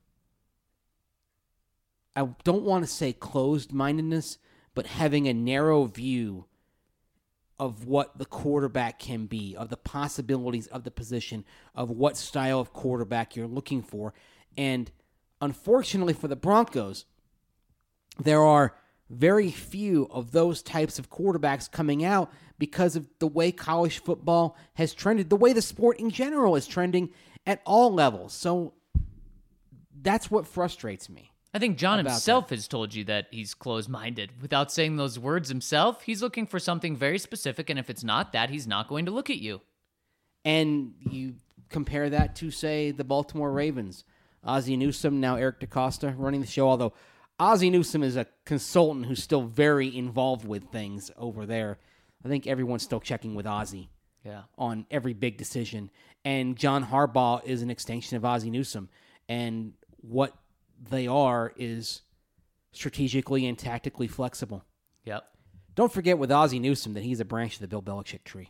I don't want to say closed-mindedness, but having a narrow view of what the quarterback can be, of the possibilities of the position, of what style of quarterback you're looking for. And unfortunately for the Broncos, there are very few of those types of quarterbacks coming out because of the way college football has trended, the way the sport in general is trending at all levels. So that's what frustrates me. I think John about himself has told you that he's closed-minded. Without saying those words himself, he's looking for something very specific, and if it's not that, he's not going to look at you. And you compare that to, say, the Baltimore Ravens. Ozzie Newsome, now Eric DaCosta running the show, although Ozzie Newsome is a consultant who's still very involved with things over there. I think everyone's still checking with Ozzie Yeah. on every big decision. And John Harbaugh is an extension of Ozzie Newsome. And what they are is strategically and tactically flexible. Yep. Don't forget with Ozzie Newsome that he's a branch of the Bill Belichick tree.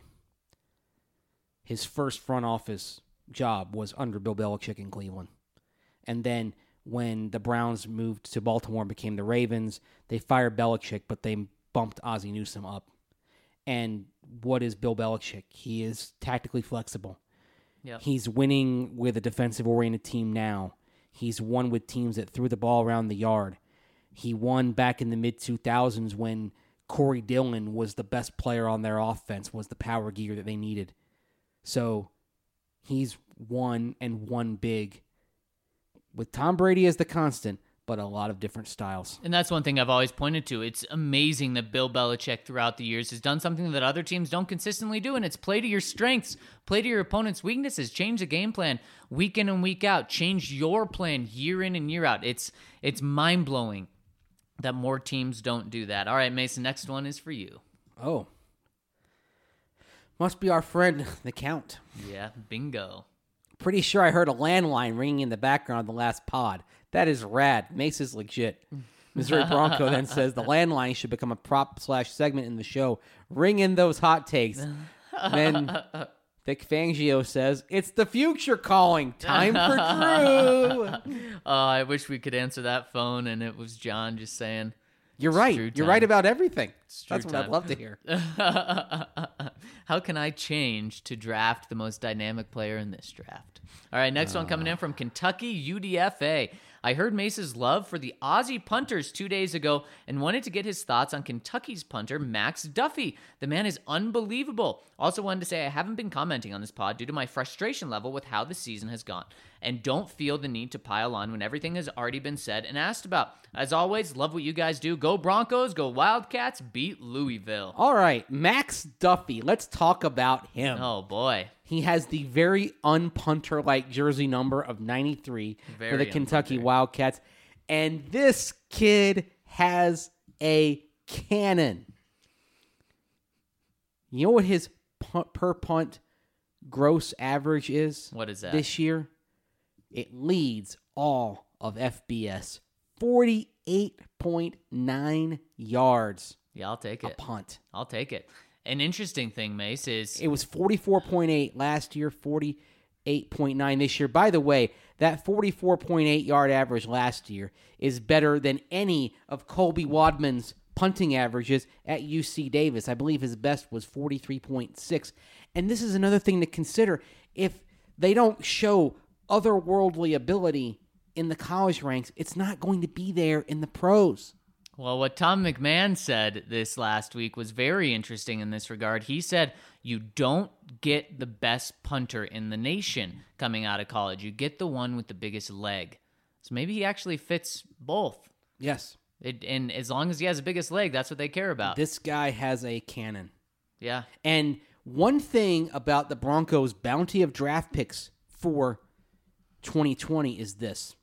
His first front office job was under Bill Belichick in Cleveland. And then when the Browns moved to Baltimore and became the Ravens, they fired Belichick, but they bumped Ozzie Newsome up. And what is Bill Belichick? He is tactically flexible. Yep. He's winning with a defensive-oriented team now. He's won with teams that threw the ball around the yard. He won back in the mid two thousands when Corey Dillon was the best player on their offense, was the power gear that they needed. So he's won and won big with Tom Brady as the constant, but a lot of different styles. And that's one thing I've always pointed to. It's amazing that Bill Belichick throughout the years has done something that other teams don't consistently do, and it's play to your strengths, play to your opponent's weaknesses, change the game plan week in and week out, change your plan year in and year out. It's it's mind-blowing that more teams don't do that. All right, Mason, next one is for you. Oh. Must be our friend, the Count. Yeah, bingo. Pretty sure I heard a landline ringing in the background of the last pod. That is rad. Mace is legit. Missouri Bronco then says the landline should become a prop slash segment in the show. Ring in those hot takes. Then Vic Fangio says, it's the future calling. Time for Drew. Oh, I wish we could answer that phone and it was John just saying. You're It's right. Drew You're time. right about everything. Drew That's what I'd time. love to hear. How can I change to draft the most dynamic player in this draft? All right, next one coming in from Kentucky U D F A. I heard Mace's love for the Aussie punters two days ago and wanted to get his thoughts on Kentucky's punter, Max Duffy. The man is unbelievable. Also wanted to say I haven't been commenting on this pod due to my frustration level with how the season has gone, and don't feel the need to pile on when everything has already been said and asked about. As always, love what you guys do. Go Broncos, go Wildcats, beat Louisville. All right, Max Duffy. Let's talk about him. Oh, boy. He has the very unpunter-like jersey number of ninety-three Very for the Kentucky unpunter. Wildcats. And this kid has a cannon. You know what his punt, per punt gross average is? What is that? This year? It leads all of F B S. forty-eight point nine yards Yeah, I'll take a it. punt. I'll take it. An interesting thing, Mace, is It was forty-four point eight last year, forty-eight point nine this year. By the way, that forty-four point eight yard average last year is better than any of Colby Wadman's punting averages at U C Davis. I believe his best was forty-three point six. And this is another thing to consider. If they don't show otherworldly ability in the college ranks, it's not going to be there in the pros. well, what Tom McMahon said this last week was very interesting in this regard. He said you don't get the best punter in the nation coming out of college. You get the one with the biggest leg. So maybe he actually fits both. Yes. It, and as long as he has the biggest leg, that's what they care about. This guy has a cannon. Yeah. And one thing about the Broncos' bounty of draft picks for twenty twenty is this.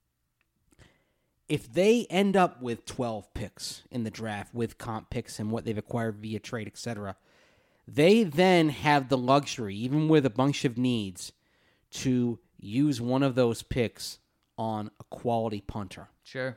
If they end up with twelve picks in the draft with comp picks and what they've acquired via trade, et cetera, they then have the luxury, even with a bunch of needs, to use one of those picks on a quality punter. Sure.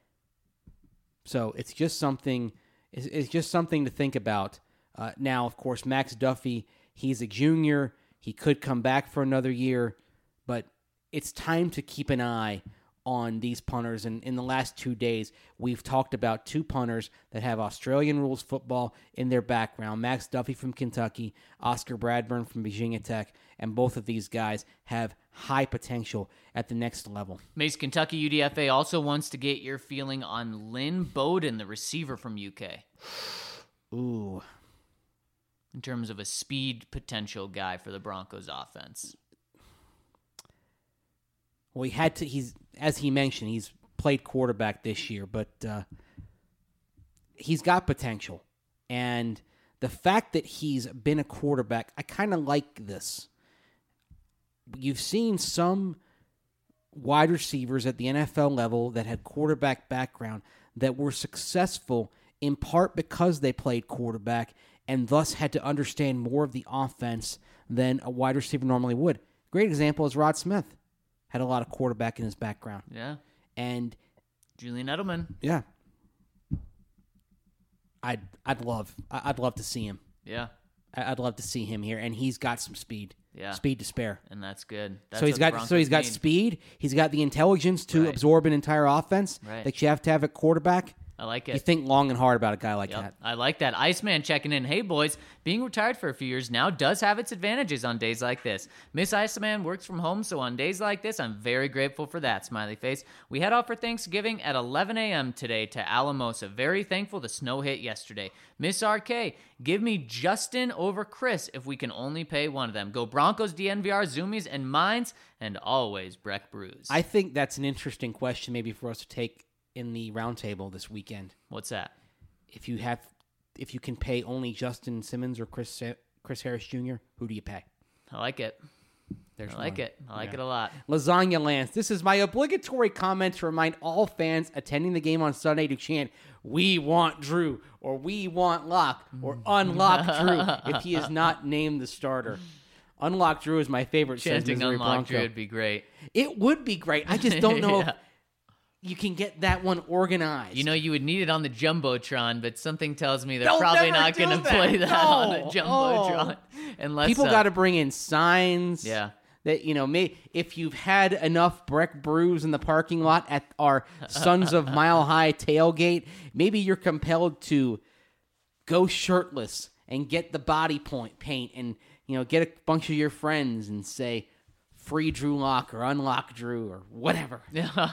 So it's just something. It's, it's just something to think about. Uh, now, of course, Max Duffy, he's a junior. He could come back for another year, but it's time to keep an eye on these punters. And in the last two days, we've talked about two punters that have Australian rules football in their background. Max Duffy from Kentucky, Oscar Bradburn from Virginia Tech, and both of these guys have high potential at the next level. Mace, Kentucky U D F A also wants to get your feeling on Lynn Bowden, the receiver from U K, Ooh. in terms of a speed potential guy for the Broncos offense. Well, he had to. He's as he mentioned, he's played quarterback this year, but uh, he's got potential. And the fact that he's been a quarterback, I kind of like this. You've seen some wide receivers at the N F L level that had quarterback background that were successful in part because they played quarterback and thus had to understand more of the offense than a wide receiver normally would. Great example is Rod Smith. Had a lot of quarterback in his background. Yeah. And Julian Edelman. yeah. I'd I'd love I'd love to see him. Yeah. I'd love to see him here, and he's got some speed. Yeah. Speed to spare. And that's good. That's so he's what got the Broncos so he's got need. speed. He's got the intelligence to Right. absorb an entire offense Right. that you have to have at quarterback. I like You it. think long and hard about a guy like Yep. that. I like that. Iceman checking in. Hey, boys, being retired for a few years now does have its advantages on days like this. Miss Iceman works from home, so on days like this, I'm very grateful for that, smiley face. We head off for Thanksgiving at eleven a.m. today to Alamosa. Very thankful the snow hit yesterday. Miss R K, give me Justin over Chris if we can only pay one of them. Go Broncos, D N V R, Zoomies, and Mines, and always Breck Brews. I think that's an interesting question maybe for us to take in the roundtable this weekend. What's that? If you have, if you can pay only Justin Simmons or Chris Sa- Chris Harris Junior, who do you pay? I like it. There's I like one. it. I like Yeah. it a lot. Lasagna Lance, this is my obligatory comment to remind all fans attending the game on Sunday to chant, "We want Drew," or "We want Lock," or "Unlock Drew" if he is not named the starter. Unlock Drew is my favorite. says Chanting Missouri Unlock Bronco. Drew would be great. It would be great. I just don't know Yeah. if you can get that one organized. You know, you would need it on the Jumbotron, but something tells me they're They'll probably never not do going to that. play that No. on a Jumbotron. Unless people uh, got to bring in signs. Yeah. That, you know, may, if you've had enough Breck Brews in the parking lot at our Sons of Mile High tailgate, maybe you're compelled to go shirtless and get the body point paint and, you know, get a bunch of your friends and say, "Free Drew Lock" or "Unlock Drew" or whatever.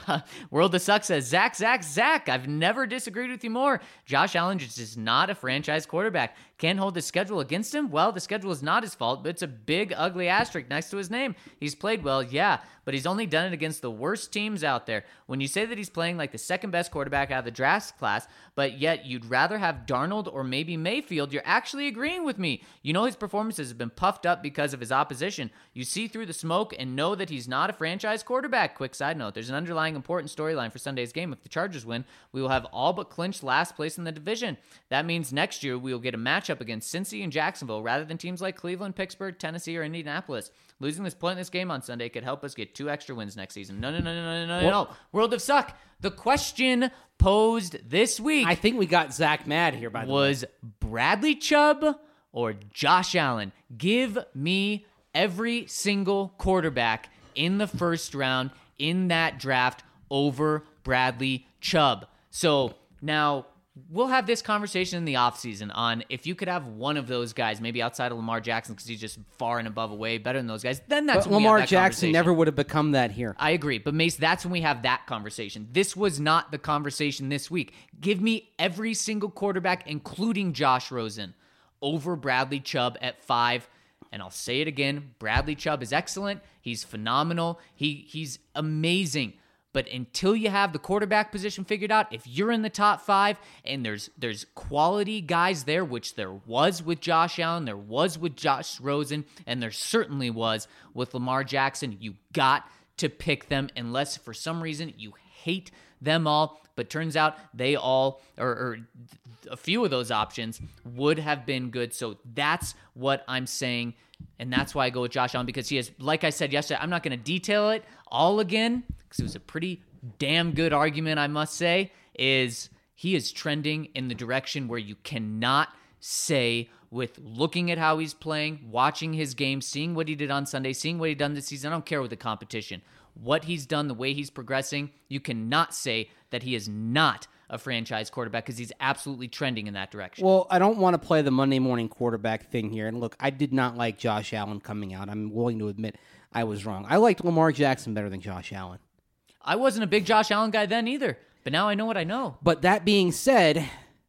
World of Suck says, Zach, Zach, Zach, I've never disagreed with you more. Josh Allen just is not a franchise quarterback. Can't hold the schedule against him? Well, the schedule is not his fault, but it's a big, ugly asterisk next to his name. He's played well, yeah, but he's only done it against the worst teams out there. When you say that he's playing like the second best quarterback out of the draft class, but yet you'd rather have Darnold or maybe Mayfield, you're actually agreeing with me. You know his performances have been puffed up because of his opposition. You see through the smoke and know that he's not a franchise quarterback. Quick side note, there's an underlying important storyline for Sunday's game. If the Chargers win, we will have all but clinched last place in the division. That means next year we will get a matchup against Cincy and Jacksonville rather than teams like Cleveland, Pittsburgh, Tennessee, or Indianapolis. Losing this pointless game on Sunday could help us get two extra wins next season. No, no, no, no, no, no, no, no. World of Suck. The question posed this week I think we got Zach mad here, by the way. was Bradley Chubb or Josh Allen. Give me every single quarterback in the first round in that draft over Bradley Chubb. So now we'll have this conversation in the offseason on if you could have one of those guys, maybe outside of Lamar Jackson because he's just far and above away, better than those guys, then that's But when we have Lamar that Jackson conversation. never would have become that here. I agree. But Mace, that's when we have that conversation. This was not the conversation this week. Give me every single quarterback, including Josh Rosen, over Bradley Chubb at five. And I'll say it again. Bradley Chubb is excellent. He's phenomenal. He he's amazing. But until you have the quarterback position figured out, if you're in the top five and there's there's quality guys there, which there was with Josh Allen, there was with Josh Rosen, and there certainly was with Lamar Jackson, you got to pick them unless for some reason you hate them all. But turns out they all, or, or a few of those options would have been good. So that's what I'm saying. And that's why I go with Josh Allen, because he has, like I said yesterday, I'm not going to detail it all again because it was a pretty damn good argument, I must say, is he is trending in the direction where you cannot say with looking at how he's playing, watching his game, seeing what he did on Sunday, seeing what he done this season. I don't care with the competition. What he's done, the way he's progressing, you cannot say that he is not a franchise quarterback because he's absolutely trending in that direction. Well, I don't want to play the Monday morning quarterback thing here. And look, I did not like Josh Allen coming out. I'm willing to admit I was wrong. I liked Lamar Jackson better than Josh Allen. I wasn't a big Josh Allen guy then either, but now I know what I know. But that being said,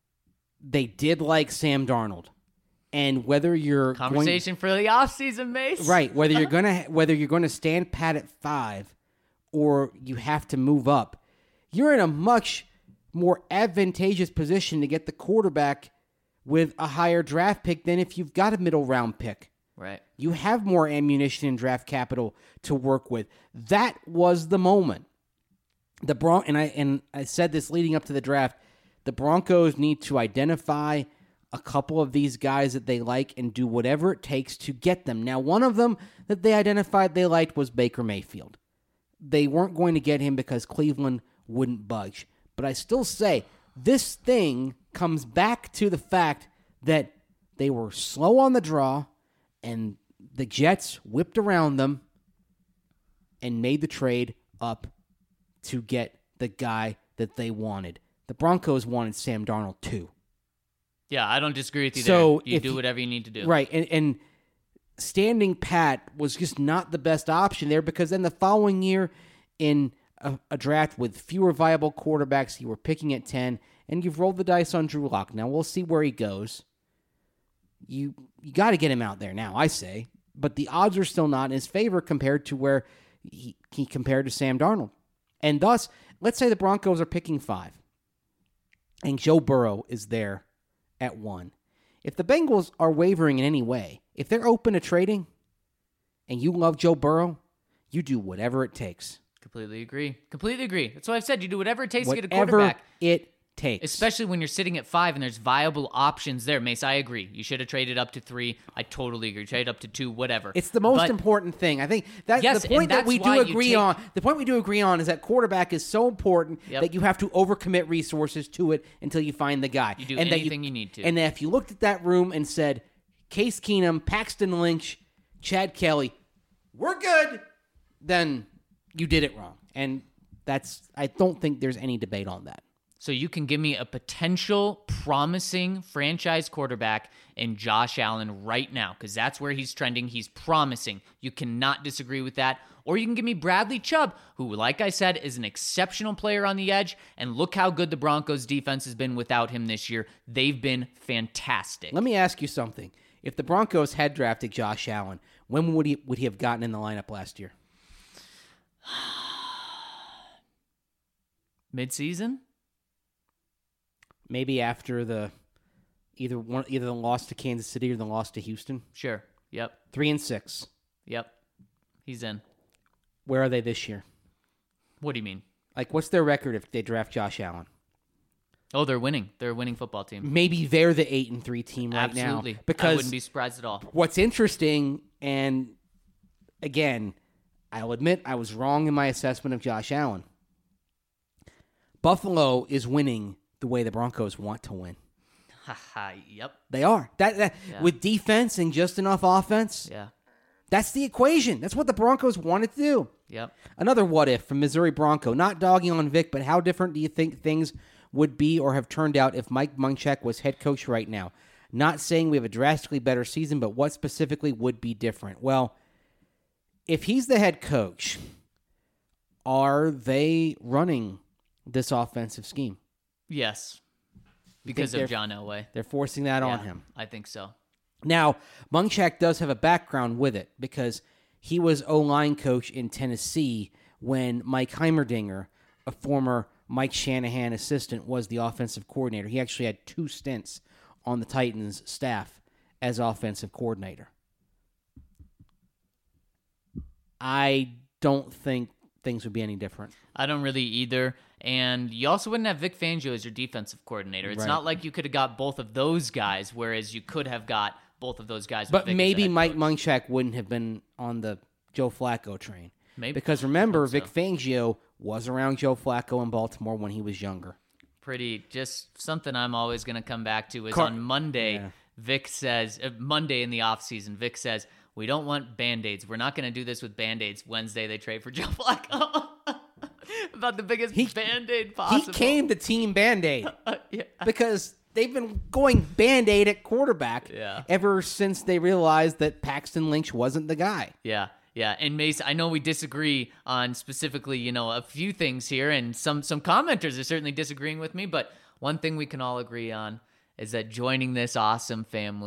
they did like Sam Darnold. And whether you're Conversation for the offseason, Mace. going, right, whether you're gonna whether you're going to stand pat at five or you have to move up, you're in a much more advantageous position to get the quarterback with a higher draft pick than if you've got a middle round pick. Right. You have more ammunition and draft capital to work with. That was the moment. The Bron- and I and I said this leading up to the draft, the Broncos need to identify a couple of these guys that they like and do whatever it takes to get them. Now, one of them that they identified they liked was Baker Mayfield. They weren't going to get him because Cleveland wouldn't budge. But I still say this thing comes back to the fact that they were slow on the draw and the Jets whipped around them and made the trade up to get the guy that they wanted. The Broncos wanted Sam Darnold too. Yeah, I don't disagree with you So there. You if do you- whatever you need to do. Right, and, and standing pat was just not the best option there because then the following year in a, a draft with fewer viable quarterbacks, you were picking at ten, and you've rolled the dice on Drew Lock. Now, we'll see where he goes. You you got to get him out there now, I say. But the odds are still not in his favor compared to where he, he compared to Sam Darnold. And thus, let's say the Broncos are picking five, and Joe Burrow is there at one. If the Bengals are wavering in any way, if they're open to trading, and you love Joe Burrow, you do whatever it takes. Completely agree. Completely agree. That's what I've said. You do whatever it takes to get a Whatever quarterback. it takes. Especially when you're sitting at five and there's viable options there. Mace, I agree. You should have traded up to three. I totally agree. Trade up to two, whatever. It's the most But important thing. I think that's Yes, the point and that that's we why do you agree take- on. The point we do agree on is that quarterback is so important Yep. that you have to overcommit resources to it until you find the guy. You do and that anything you need to. And that if you looked at that room and said, Case Keenum, Paxton Lynch, Chad Kelly, we're good, then you did it wrong. And that's I don't think there's any debate on that. So you can give me a potential promising franchise quarterback in Josh Allen right now, because that's where he's trending. He's promising. You cannot disagree with that. Or you can give me Bradley Chubb, who, like I said, is an exceptional player on the edge. And look how good the Broncos defense has been without him this year. They've been fantastic. Let me ask you something. If the Broncos had drafted Josh Allen, when would he would he have gotten in the lineup last year? Mid-season? Maybe after the either one either the loss to Kansas City or the loss to Houston. Sure. Yep. Three and six. Yep. He's in. Where are they this year? What do you mean? Like, what's their record if they draft Josh Allen? Oh, they're winning. They're a winning football team. Maybe they're the eight and three team right Absolutely. now. I Because wouldn't be surprised at all. what's interesting, and again, I'll admit I was wrong in my assessment of Josh Allen. Buffalo is winning the way the Broncos want to win. Haha, yep. They are. That, that Yeah. with defense and just enough offense. Yeah. That's the equation. That's what the Broncos wanted to do. Yep. Another what if from Missouri Bronco. Not dogging on Vic, but how different do you think things would be or have turned out if Mike Munchak was head coach right now? Not saying we have a drastically better season, but what specifically would be different? Well, if he's the head coach, are they running this offensive scheme? Yes. Because they're- of John Elway. They're forcing that on Yeah, him. I think so. Now, Munchak does have a background with it because he was O-line coach in Tennessee when Mike Heimerdinger, a former Mike Shanahan assistant, was the offensive coordinator. He actually had two stints on the Titans staff as offensive coordinator. I don't think things would be any different. I don't really either. And you also wouldn't have Vic Fangio as your defensive coordinator. It's Right. not like you could have got both of those guys, whereas you could have got both of those guys. with But Vic as the maybe head Mike coach. Munchak wouldn't have been on the Joe Flacco train. Maybe. Because remember, so. Vic Fangio was around Joe Flacco in Baltimore when he was younger. Pretty, just something I'm always going to come back to is Car- on Monday, Yeah. Vic says, uh, Monday in the offseason, Vic says, we don't want Band-Aids. We're not going to do this with Band-Aids. Wednesday, they trade for Joe Flacco. About the biggest He- Band-Aid possible. He came to Team Band-Aid yeah. because they've been going Band-Aid at quarterback Yeah. ever since they realized that Paxton Lynch wasn't the guy. Yeah, yeah. And Mace, I know we disagree on specifically, you know, a few things here, and some some commenters are certainly disagreeing with me, but one thing we can all agree on is that joining this awesome family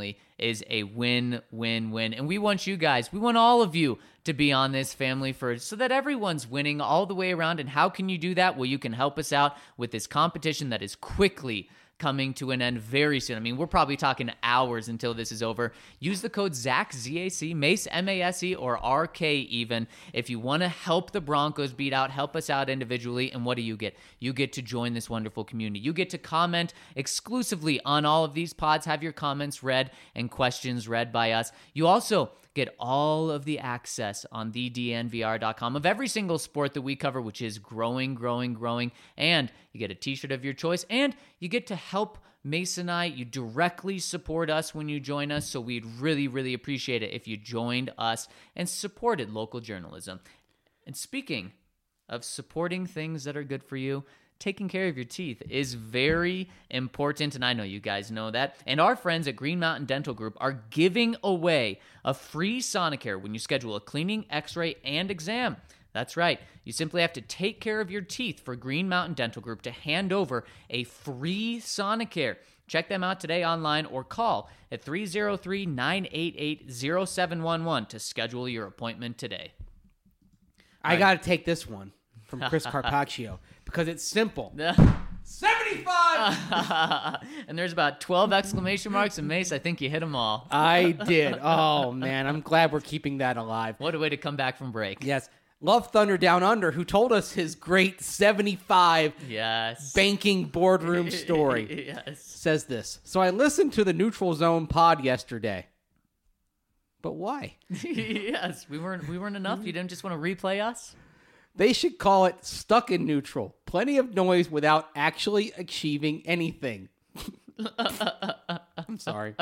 is a win, win, win. And we want you guys, we want all of you to be on this family for so that everyone's winning all the way around. And how can you do that? Well, you can help us out with this competition that is quickly coming to an end very soon. I mean, we're probably talking hours until this is over. Use the code ZAC, Z A C, Mace, M A S E, or R K even. If you want to help the Broncos beat out, help us out individually. And what do you get? You get to join this wonderful community. You get to comment exclusively on all of these pods, have your comments read and questions read by us. You also get all of the access on the D N V R dot com of every single sport that we cover, which is growing, growing, growing. And you get a t-shirt of your choice, and you get to help Mace and I. You directly support us when you join us, so we'd really, really appreciate it if you joined us and supported local journalism. And speaking of supporting things that are good for you, taking care of your teeth is very important, and I know you guys know that. And our friends at Green Mountain Dental Group are giving away a free Sonicare when you schedule a cleaning, x-ray, and exam. That's right. You simply have to take care of your teeth for Green Mountain Dental Group to hand over a free Sonicare. Check them out today online or call at three oh three, nine eight eight, oh seven one one to schedule your appointment today. I got to take this one from Chris Carpaccio because it's simple. seventy-five! And there's about twelve exclamation marks, and Mace, I think you hit them all. I did. Oh, man. I'm glad we're keeping that alive. What a way to come back from break. Yes. Love Thunder Down Under, who told us his great seventy-five yes. banking boardroom story, yes. says this. So I listened to the Neutral Zone pod yesterday. But why? yes, we weren't we weren't enough. You didn't just want to replay us? They should call it Stuck in Neutral. Plenty of noise without actually achieving anything. I'm sorry.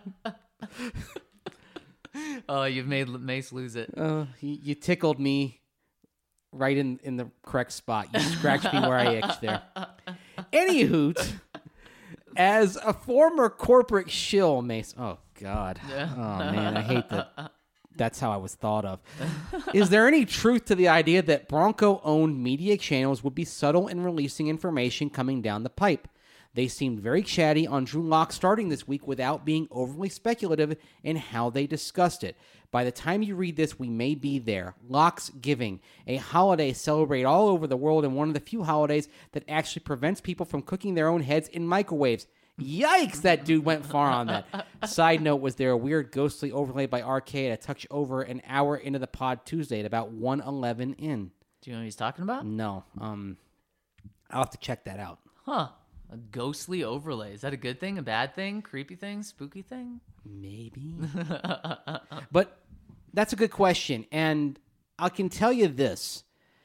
Oh, you've made Mace lose it. Uh, you, you tickled me right in, in the correct spot. You scratched me where I itched there. Anywho, as a former corporate shill, Mace. Oh, God. Oh, man, I hate that. That's how I was thought of. Is there any truth to the idea that Bronco-owned media channels would be subtle in releasing information coming down the pipe? They seemed very chatty on Drew Lock starting this week without being overly speculative in how they discussed it. By the time you read this, we may be there. Lock's Giving, a holiday celebrated all over the world and one of the few holidays that actually prevents people from cooking their own heads in microwaves. Yikes, that dude went far on that. Side note, was there a weird ghostly overlay by Arcade a touch over an hour into the pod Tuesday at about one eleven in? Do you know what he's talking about? No. Um, I'll have to check that out. Huh. A ghostly overlay. Is that a good thing, a bad thing, creepy thing, spooky thing? Maybe. But that's a good question. And I can tell you this.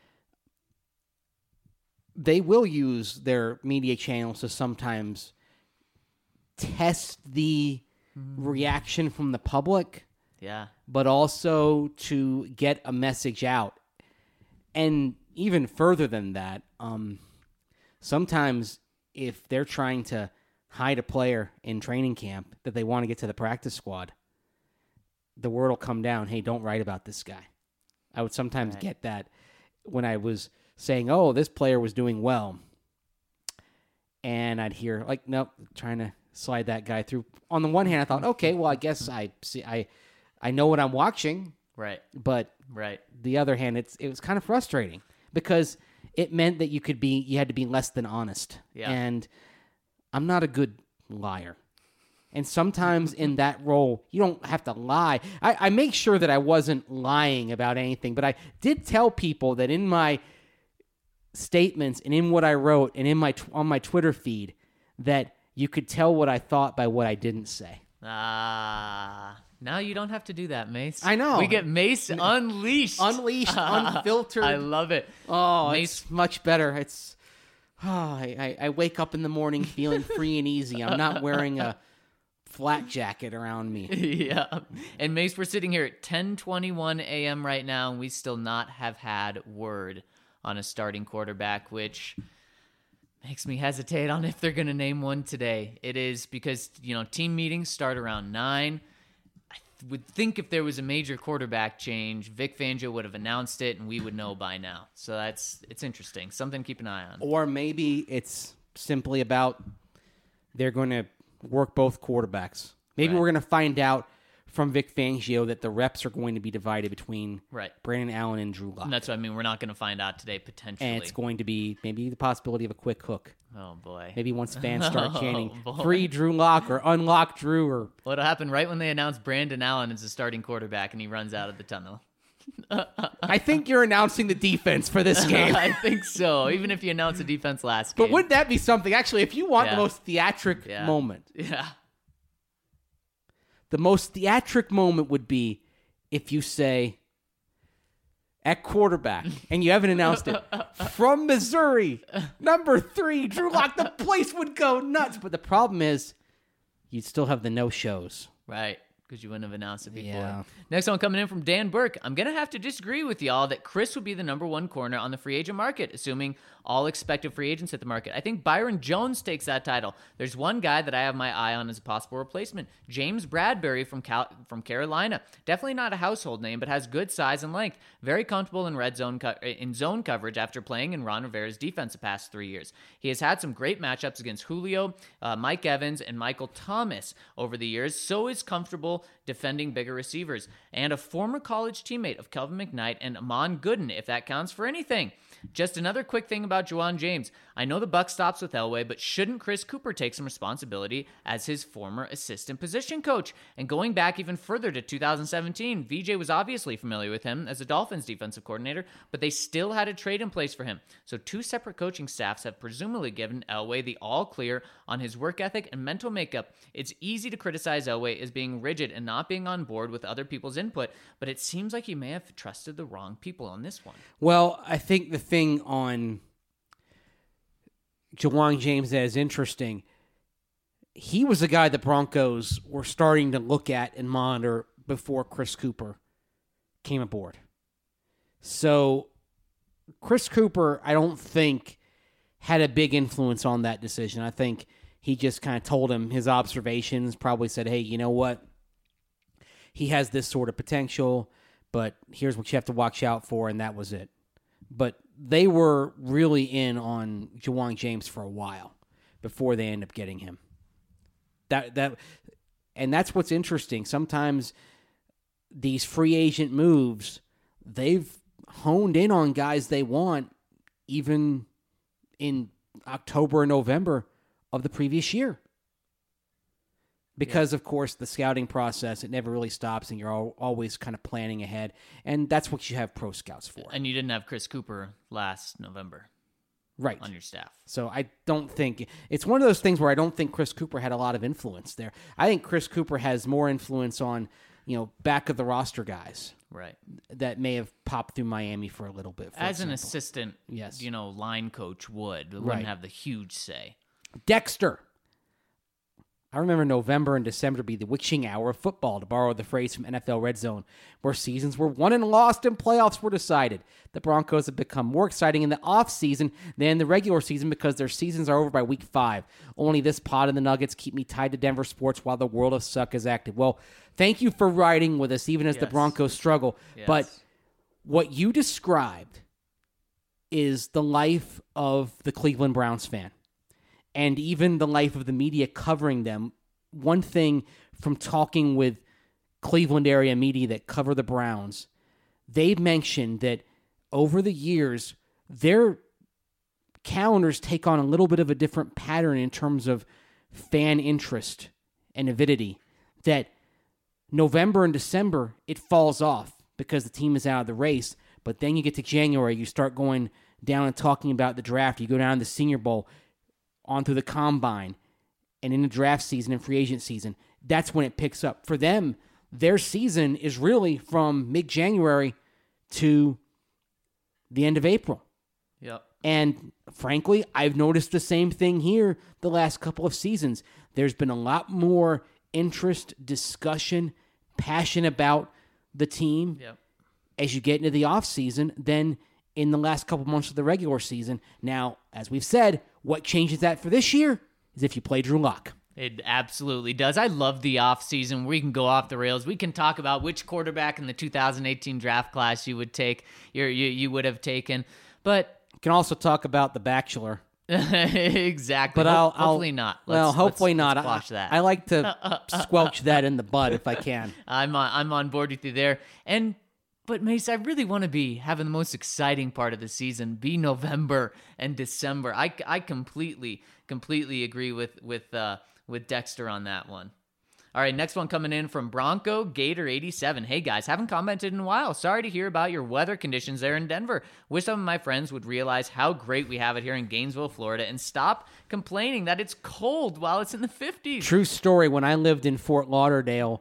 They will use their media channels to sometimes test the reaction from the public. Yeah. But also to get a message out. And even further than that, um, sometimes if they're trying to hide a player in training camp that they want to get to the practice squad, the word will come down, hey, don't write about this guy. I would sometimes right. get that when I was saying, oh, this player was doing well. And I'd hear, like, nope, trying to slide that guy through. On the one hand, I thought, okay, well, I guess I see, I, I know what I'm watching. Right. But right. the other hand, it's it was kind of frustrating because it meant that you could be, you had to be less than honest. Yeah. And I'm not a good liar. And sometimes in that role, you don't have to lie. I, I make sure that I wasn't lying about anything, but I did tell people that in my statements and in what I wrote and in my on my Twitter feed that you could tell what I thought by what I didn't say. Ah. Now you don't have to do that, Mace. I know. We get Mace unleashed. Unleashed, unfiltered. I love it. Oh, Mace. It's much better. It's oh, I, I, I wake up in the morning feeling free and easy. I'm not wearing a flat jacket around me. Yeah. And Mace, we're sitting here at ten twenty-one a.m. right now, and we still not have had word on a starting quarterback, which makes me hesitate on if they're going to name one today. It is because, you know, team meetings start around nine. Would think if there was a major quarterback change, Vic Fangio would have announced it and we would know by now. So that's it's interesting. Something to keep an eye on. Or maybe it's simply about they're going to work both quarterbacks Maybe Right. we're going to find out from Vic Fangio that the reps are going to be divided between Right. Brandon Allen and Drew Lock. And that's what I mean. We're not going to find out today, potentially. And it's going to be maybe the possibility of a quick hook. Oh, boy. Maybe once fans start Oh, chanting, boy. free Drew Lock or unlock Drew or What'll happen right when they announce Brandon Allen as the starting quarterback and he runs out of the tunnel? I think you're announcing the defense for this game. I think so. Even if you announce the defense last But game. wouldn't that be something? Actually, if you want Yeah. the most theatric Yeah. moment, Yeah. the most theatric moment would be if you say at quarterback and you haven't announced it from Missouri, number three, Drew Lock. The place would go nuts. But the problem is, you'd still have the no shows. Right. Because you wouldn't have announced it before. Yeah. Next one coming in from Dan Burke. I'm going to have to disagree with y'all that Chris would be the number one corner on the free agent market, assuming all expected free agents hit the market. I think Byron Jones takes that title. There's one guy that I have my eye on as a possible replacement, James Bradbury from Cal- from Carolina. Definitely not a household name, but has good size and length. Very comfortable in red zone co- in zone coverage after playing in Ron Rivera's defense the past three years. He has had some great matchups against Julio, uh, Mike Evans, and Michael Thomas over the years, so is comfortable defending bigger receivers. And a former college teammate of Kelvin McKnight and Amon Gooden, if that counts for anything. Just another quick thing about Juwan James. I know the buck stops with Elway, but shouldn't Chris Cooper take some responsibility as his former assistant position coach? And going back even further to two thousand seventeen, V J was obviously familiar with him as a Dolphins defensive coordinator, but they still had a trade in place for him. So two separate coaching staffs have presumably given Elway the all clear on his work ethic and mental makeup. It's easy to criticize Elway as being rigid and not being on board with other people's input, but it seems like he may have trusted the wrong people on this one. Well, I think the thing on Juwan James that is interesting, he was a guy the Broncos were starting to look at and monitor before Chris Cooper came aboard. So Chris Cooper, I don't think, had a big influence on that decision. I think he just kind of told him his observations, probably said, hey, you know what? He has this sort of potential, but here's what you have to watch out for, and that was it. But they were really in on Juwan James for a while before they end up getting him. That that, and that's what's interesting. Sometimes these free agent moves, they've honed in on guys they want even in October and November of the previous year. Because, yeah. of course, the scouting process, it never really stops, and you're all, always kind of planning ahead. And that's what you have pro scouts for. And you didn't have Chris Cooper last November. Right. On your staff. So I don't think... It's one of those things where I don't think Chris Cooper had a lot of influence there. I think Chris Cooper has more influence on, you know, back of the roster guys. Right. That may have popped through Miami for a little bit. For As example. an assistant, yes. you know, line coach would. Wouldn't Right. have the huge say. Dexter. I remember November and December to be the witching hour of football, to borrow the phrase from N F L Red Zone, where seasons were won and lost and playoffs were decided. The Broncos have become more exciting in the offseason than the regular season because their seasons are over by week five. Only this pod and the Nuggets keep me tied to Denver sports while the world of suck is active. Well, thank you for riding with us, even as Yes. the Broncos struggle. Yes. But what you described is the life of the Cleveland Browns fan. And even the life of the media covering them. One thing from talking with Cleveland area media that cover the Browns, they've mentioned that over the years, their calendars take on a little bit of a different pattern in terms of fan interest and avidity. That November and December, it falls off because the team is out of the race. But then you get to January, you start going down and talking about the draft. You go down to the Senior Bowl, on through the combine, and in the draft season and free agent season. That's when it picks up. For them, their season is really from mid-January to the end of April. Yep. And frankly, I've noticed the same thing here the last couple of seasons. There's been a lot more interest, discussion, passion about the team Yep. as you get into the offseason than in the last couple months of the regular season. Now, as we've said, what changes that for this year is if you play Drew Lock. It absolutely does. I love the offseason. We can go off the rails. We can talk about which quarterback in the two thousand eighteen draft class you would take, you you you would have taken. But you can also talk about The Bachelor Exactly. But Ho- I'll, hopefully I'll, not. well, Let's- hopefully let's- not. let's I- Squash that. I, like to squelch that in the bud if I can. I'm on, I'm on board with you there. And but Mace, I really want to be having the most exciting part of the season be November and December. I, I completely completely agree with with uh, with Dexter on that one. All right, next one coming in from Bronco Gator eighty-seven. Hey guys, haven't commented in a while. Sorry to hear about your weather conditions there in Denver. Wish some of my friends would realize how great we have it here in Gainesville, Florida, and stop complaining that it's cold while it's in the fifties. True story. When I lived in Fort Lauderdale,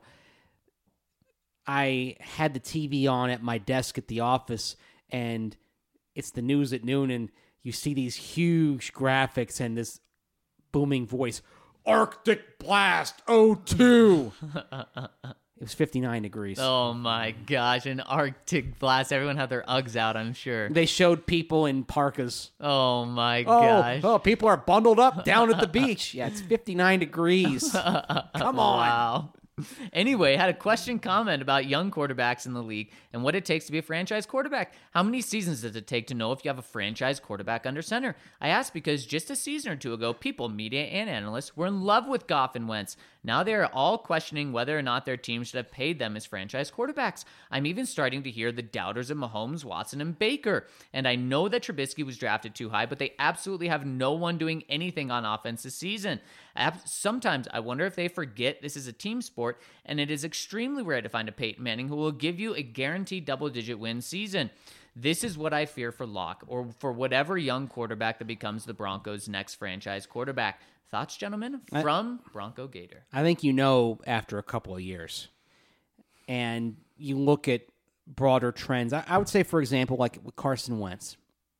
I had the T V on at my desk at the office, and it's the news at noon, and you see these huge graphics and this booming voice, Arctic Blast oh two. It was fifty-nine degrees. Oh my gosh, an Arctic blast. Everyone had their Uggs out, I'm sure. They showed people in parkas. Oh my Oh, gosh. oh, people are bundled up down at the beach. Yeah, it's fifty-nine degrees. Come on. Wow. Anyway, had a question comment about young quarterbacks in the league and what it takes to be a franchise quarterback. How many seasons does it take to know if you have a franchise quarterback under center? I asked because just a season or two ago, people, media and analysts, were in love with Goff and Wentz. Now they are all questioning whether or not their team should have paid them as franchise quarterbacks. I'm even starting to hear the doubters of Mahomes, Watson, and Baker. And I know that Trubisky was drafted too high, but they absolutely have no one doing anything on offense this season. Sometimes I wonder if they forget this is a team sport, and it is extremely rare to find a Peyton Manning who will give you a guaranteed double-digit win season. This is what I fear for Locke, or for whatever young quarterback that becomes the Broncos' next franchise quarterback. Thoughts, gentlemen, from I, Bronco Gator? I think you know after a couple of years, and you look at broader trends. I, I would say, for example, like with Carson Wentz,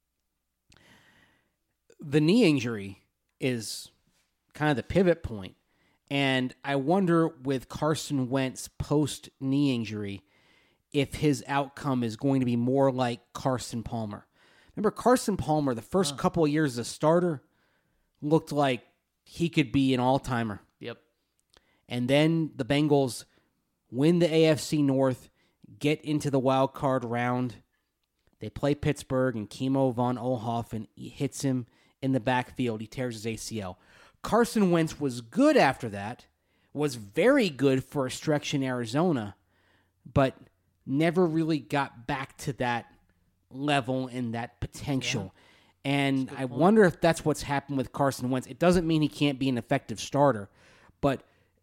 the knee injury is kind of the pivot point. And I wonder with Carson Wentz post-knee injury if his outcome is going to be more like Carson Palmer. Remember Carson Palmer, the first huh. couple of years as a starter, looked like he could be an all-timer. Yep. And then the Bengals win the A F C North, get into the wild card round. They play Pittsburgh, and Kimo von Oelhoffen hits him in the backfield. He tears his A C L. Carson Wentz was good after that, was very good for a stretch in Arizona, but never really got back to that level and that potential. Yeah. And I point. wonder if that's what's happened with Carson Wentz. It doesn't mean he can't be an effective starter, but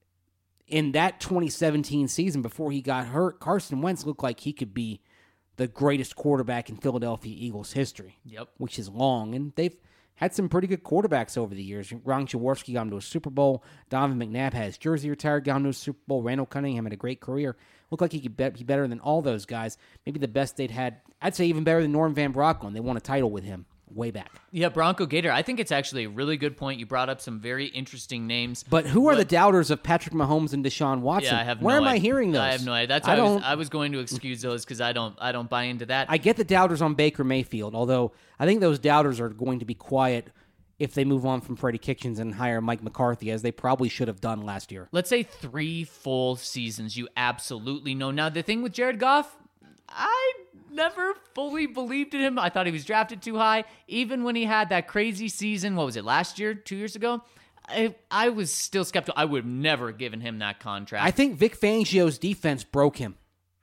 in that twenty seventeen season before he got hurt, Carson Wentz looked like he could be the greatest quarterback in Philadelphia Eagles history. Yep. Which is long, and they've had some pretty good quarterbacks over the years. Ron Jaworski got him to a Super Bowl. Donovan McNabb had his jersey retired, got him to a Super Bowl. Randall Cunningham had a great career. Looked like he could be better than all those guys. Maybe the best they'd had. I'd say even better than Norm Van Brocklin. They won a title with him way back. Yeah, Bronco Gator. I think it's actually a really good point. You brought up some very interesting names. But who are but, the doubters of Patrick Mahomes and Deshaun Watson? Yeah, I have Where no am idea. I hearing those? I have no idea. That's why I, I, was, I was going to excuse those because I don't I don't buy into that. I get the doubters on Baker Mayfield, although I think those doubters are going to be quiet if they move on from Freddie Kitchens and hire Mike McCarthy, as they probably should have done last year. Let's say three full seasons, you absolutely know. Now, the thing with Jared Goff, I never fully believed in him. I thought he was drafted too high. Even when he had that crazy season, what was it, last year, two years ago? I, I was still skeptical. I would have never given him that contract. I think Vic Fangio's defense broke him.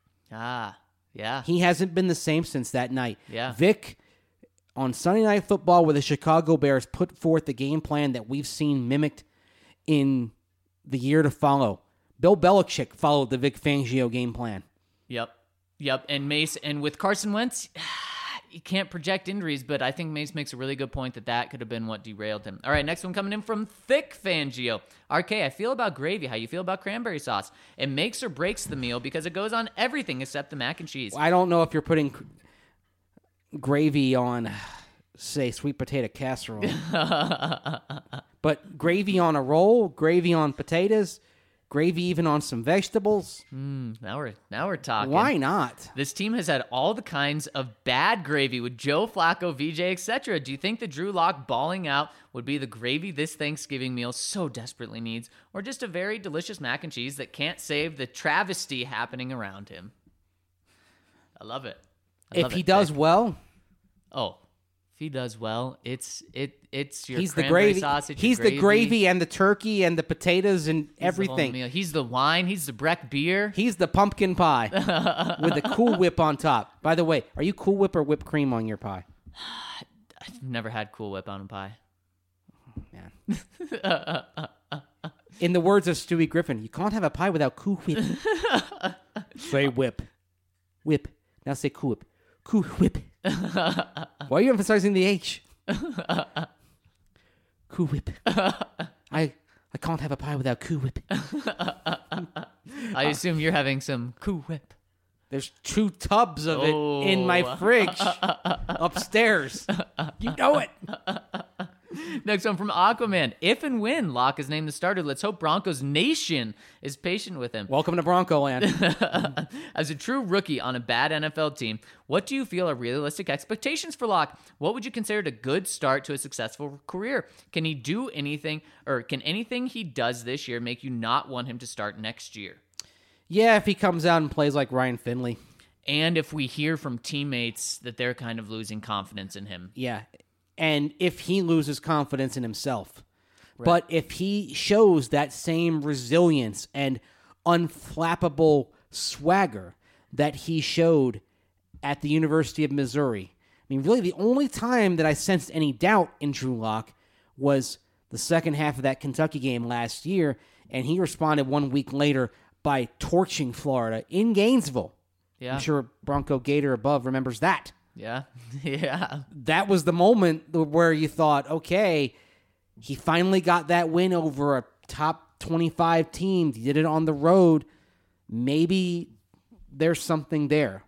Ah, yeah. He hasn't been the same since that night. Yeah. Vic, on Sunday Night Football with the Chicago Bears, put forth the game plan that we've seen mimicked in the year to follow. Bill Belichick followed the Vic Fangio game plan. Yep. Yep. And Mace, and with Carson Wentz, you can't project injuries, but I think Mace makes a really good point that that could have been what derailed him. All right, next one coming in from Thick Fangio. R K, I feel about gravy how you feel about cranberry sauce. It makes or breaks the meal because it goes on everything except the mac and cheese. I don't know if you're putting gravy on, say, sweet potato casserole. But gravy on a roll, gravy on potatoes, gravy even on some vegetables. Mm, now we're now we're talking. Why not? This team has had all the kinds of bad gravy with Joe Flacco, V J, et cetera. Do you think that Drew Lock balling out would be the gravy this Thanksgiving meal so desperately needs, or just a very delicious mac and cheese that can't save the travesty happening around him? I love it. I if love he it. does well, oh, If he does well, it's it it's your He's the cranberry gravy. sausage. your He's the gravy and the turkey and the potatoes and He's the whole everything. meal. He's the wine. He's the Breck beer. He's the pumpkin pie with the Cool Whip on top. By the way, are you Cool Whip or whipped cream on your pie? I've never had Cool Whip on a pie. Man. In the words of Stewie Griffin, you can't have a pie without Cool Whip. Say whip. Whip. Now say Cool Whip. Cool Whip. Why are you emphasizing the H? Cool Whip. I I can't have a pie without Cool Whip. I assume you're having some Cool Whip. There's two tubs of it Oh. in my fridge upstairs. You know it. Next one from Aquaman. If and when Locke is named the starter, let's hope Broncos Nation is patient with him. Welcome to Bronco Land. As a true rookie on a bad N F L team, what do you feel are realistic expectations for Locke? What would you consider a good start to a successful career? Can he do anything, or can anything he does this year make you not want him to start next year? Yeah, if he comes out and plays like Ryan Finley. And if we hear from teammates that they're kind of losing confidence in him. Yeah. And if he loses confidence in himself. Right. But if he shows that same resilience and unflappable swagger that he showed at the University of Missouri. I mean, really, the only time that I sensed any doubt in Drew Lock was the second half of that Kentucky game last year, and he responded one week later by torching Florida in Gainesville. Yeah. I'm sure Bronco Gator above remembers that. Yeah. Yeah. That was the moment where you thought, okay, he finally got that win over a top twenty-five team. He did it on the road. Maybe there's something there.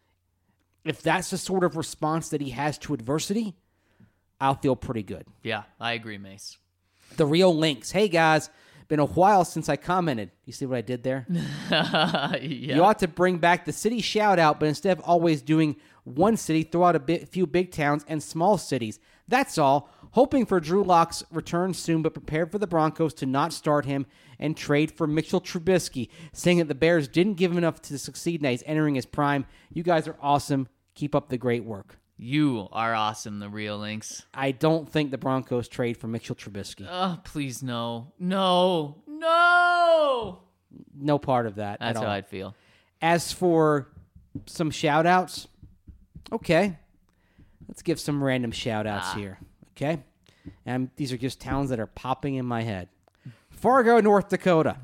If that's the sort of response that he has to adversity, I'll feel pretty good. Yeah, I agree, Mace. The Real Lynx. Hey, guys. Been a while since I commented. You see what I did there? Yeah. You ought to bring back the city shout out, but instead of always doing one city, throw out a bit, few big towns and small cities. That's all. Hoping for Drew Lock's return soon, but prepared for the Broncos to not start him and trade for Mitchell Trubisky, saying that the Bears didn't give him enough to succeed now he's entering his prime. You guys are awesome. Keep up the great work. You are awesome, the Real Lynx. I don't think the Broncos trade for Mitchell Trubisky. Oh, please, no. No. No! No part of that That's at how all. I'd feel. As for some shout-outs, okay. Let's give some random shout-outs Ah. here, okay? And these are just towns that are popping in my head. Fargo, North Dakota.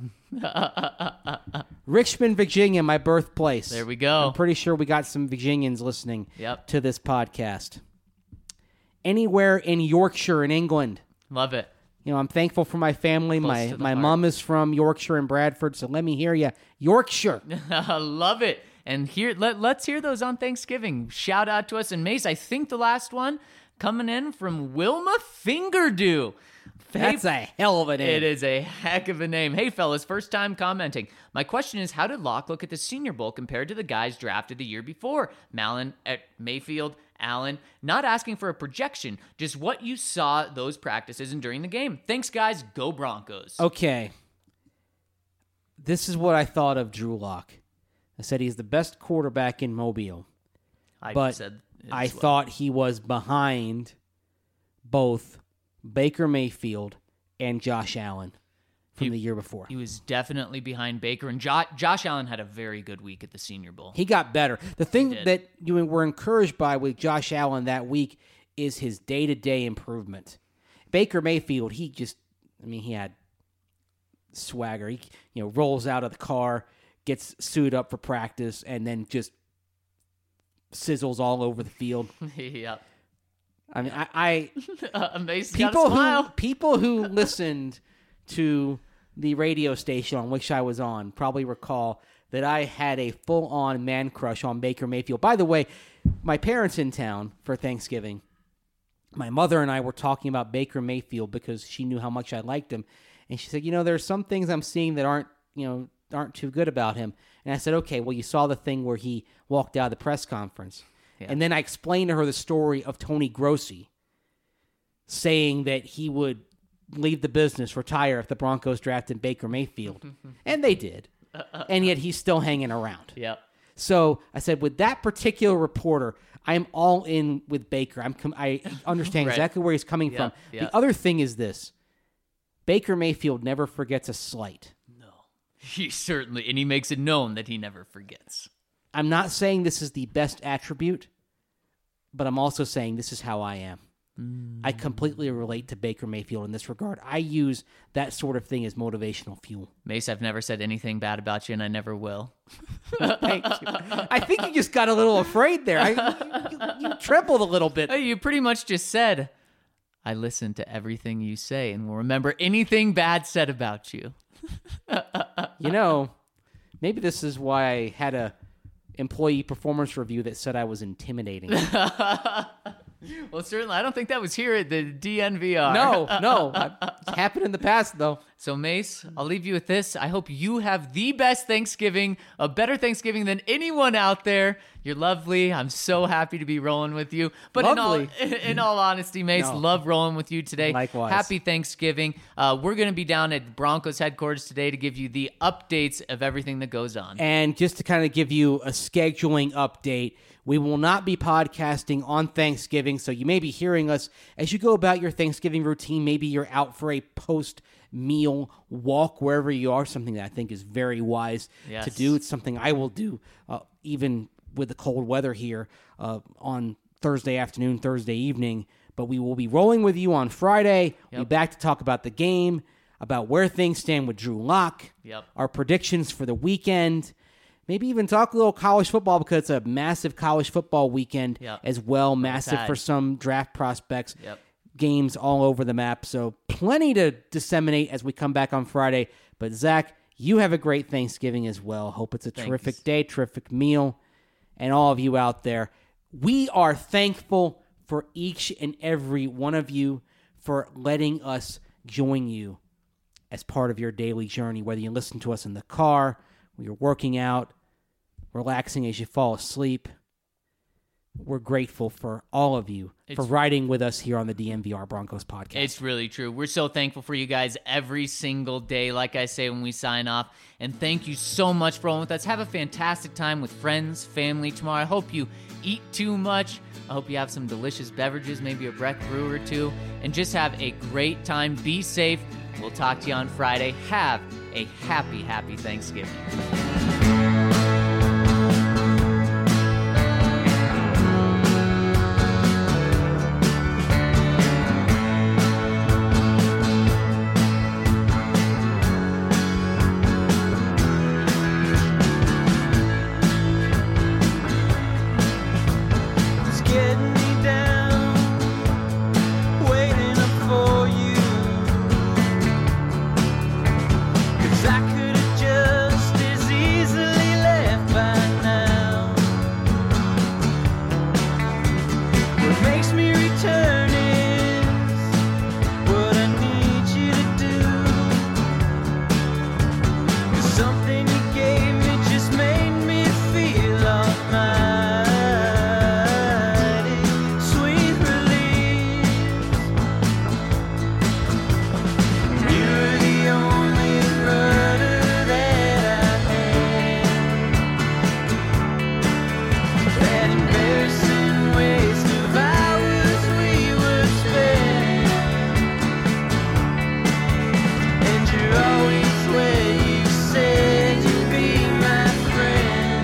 Richmond, Virginia, my birthplace. There we go. I'm pretty sure we got some Virginians listening Yep. to this podcast. Anywhere in Yorkshire in England. Love it. You know, I'm thankful for my family. Close my to the my heart. mom is from Yorkshire and Bradford, so let me hear you. Yorkshire. Love it. And here, let, let's hear those on Thanksgiving. Shout out to us. And Mace, I think the last one coming in from Wilma Fingerdew. That's Hey, a hell of a name. It is a heck of a name. Hey, fellas, first time commenting. My question is, how did Locke look at the Senior Bowl compared to the guys drafted the year before? Malin, at Mayfield, Allen. Not asking for a projection, just what you saw those practices and during the game. Thanks, guys. Go Broncos. Okay. This is what I thought of Drew Lock. I said he's the best quarterback in Mobile, I but said it I as well. thought he was behind both Baker Mayfield and Josh Allen from He- the year before. He was definitely behind Baker, and jo- Josh Allen had a very good week at the Senior Bowl. He got better. The thing did. that you were encouraged by with Josh Allen that week is his day-to-day improvement. Baker Mayfield, he just, I mean, he had swagger. He, you know, rolls out of the car, gets suited up for practice, and then just sizzles all over the field. Yep. I mean, I, I Uh, Amazing. Got a people who smile. people who listened to the radio station on which I was on probably recall that I had a full-on man crush on Baker Mayfield. By the way, my parents in town for Thanksgiving. My mother and I were talking about Baker Mayfield because she knew how much I liked him, and she said, "You know, there's some things I'm seeing that aren't, you know, aren't too good about him." And I said, "Okay, well, you saw the thing where he walked out of the press conference." Yeah. And then I explained to her the story of Tony Grossi saying that he would leave the business, retire if the Broncos drafted Baker Mayfield. And they did. And yet he's still hanging around. Yep. So I said, with that particular reporter, I'm all in with Baker. I'm com- I understand Right. exactly where he's coming Yeah, from. yeah. The other thing is this. Baker Mayfield never forgets a slight. No. He certainly, and he makes it known that he never forgets. I'm not saying this is the best attribute, but I'm also saying this is how I am. Mm. I completely relate to Baker Mayfield in this regard. I use that sort of thing as motivational fuel. Mace, I've never said anything bad about you, and I never will. Thank you. I think you just got a little afraid there. I, you, you, you trembled a little bit. Hey, you pretty much just said, I listen to everything you say and will remember anything bad said about you. You know, maybe this is why I had a employee performance review that said I was intimidating. Well, certainly, I don't think that was here at the D N V R. No, no. It's happened in the past, though. So, Mace, I'll leave you with this. I hope you have the best Thanksgiving, a better Thanksgiving than anyone out there. You're lovely. I'm so happy to be rolling with you. But Lovely. in all in all honesty, Mace, No. love rolling with you today. Likewise. Happy Thanksgiving. Uh, we're going to be down at Broncos headquarters today to give you the updates of everything that goes on. And just to kind of give you a scheduling update, we will not be podcasting on Thanksgiving, so you may be hearing us as you go about your Thanksgiving routine. Maybe you're out for a post-meal walk wherever you are, something that I think is very wise Yes. to do. It's something I will do uh, even with the cold weather here uh, on Thursday afternoon, Thursday evening. But we will be rolling with you on Friday. We'll be Yep. back to talk about the game, about where things stand with Drew Lock, Yep. our predictions for the weekend. Maybe even talk a little college football because it's a massive college football weekend Yep. as well. Massive Tide. for some draft prospects. Yep. Games all over the map. So plenty to disseminate as we come back on Friday. But Zach, you have a great Thanksgiving as well. Hope it's a Thanks. terrific day, terrific meal. And all of you out there, we are thankful for each and every one of you for letting us join you as part of your daily journey, whether you listen to us in the car, when you're working out, relaxing as you fall asleep. We're grateful for all of you for It's- riding with us here on the D N V R Broncos podcast. It's really true. We're so thankful for you guys every single day, like I say when we sign off. And thank you so much for rolling with us. Have a fantastic time with friends, family tomorrow. I hope you eat too much. I hope you have some delicious beverages, maybe a Breck brew or two, and just have a great time. Be safe. We'll talk to you on Friday. Have a happy, happy Thanksgiving. It's getting me down, waiting up for you. 'Cause I could have just as easily left by now. What makes me return is what I need you to do. 'Cause something you gave me just made me feel almighty. Sweet release. You're the only rudder that I had. That embarrassing waste of hours we would spend. And you're always where you said you'd be my friend.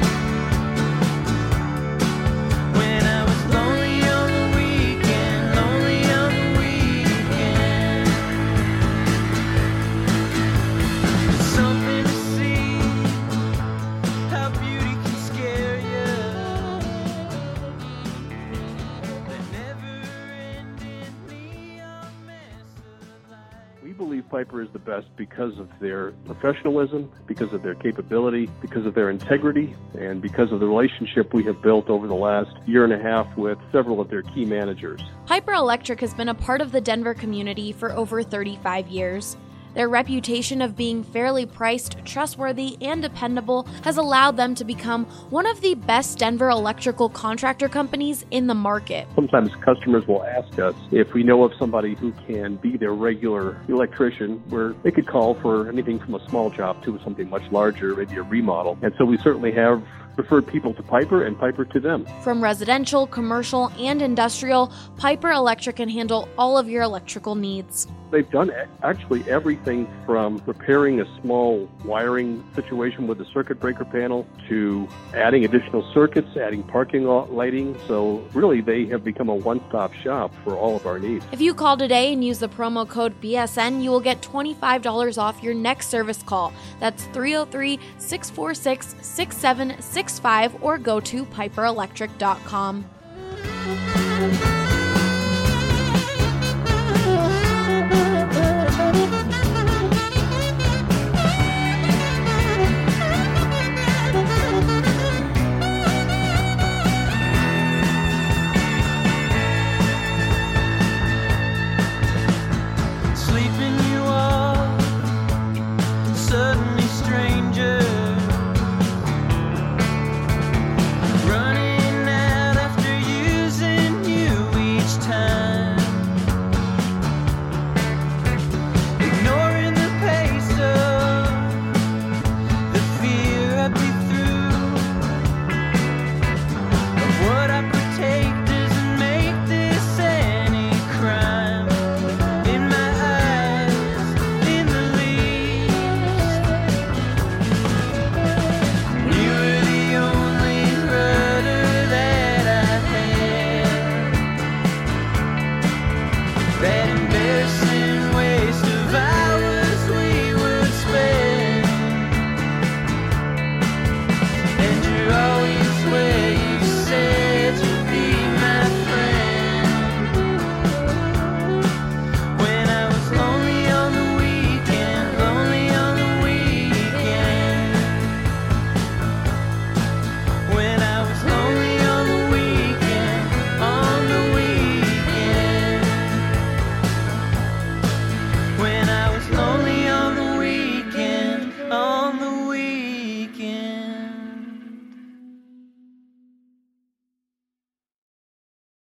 When I was lonely on the weekend, lonely on the weekend. Something to see, how beauty can scare you. The never-ending neon mess of life. We believe Piper is the best because of their professionalism, because of their capability, because of their integrity, and because of the relationship we have built over the last year and a half with several of their key managers. Piper Electric has been a part of the Denver community for over thirty-five years. Their reputation of being fairly priced, trustworthy, and dependable has allowed them to become one of the best Denver electrical contractor companies in the market. Sometimes customers will ask us if we know of somebody who can be their regular electrician, where they could call for anything from a small job to something much larger, maybe a remodel. And so we certainly have referred people to Piper and Piper to them. From residential, commercial, and industrial, Piper Electric can handle all of your electrical needs. They've done actually everything from repairing a small wiring situation with a circuit breaker panel to adding additional circuits, adding parking lot lighting. So really, they have become a one-stop shop for all of our needs. If you call today and use the promo code B S N, you will get twenty-five dollars off your next service call. That's three oh three, six four six, six seven six five or go to piper electric dot com.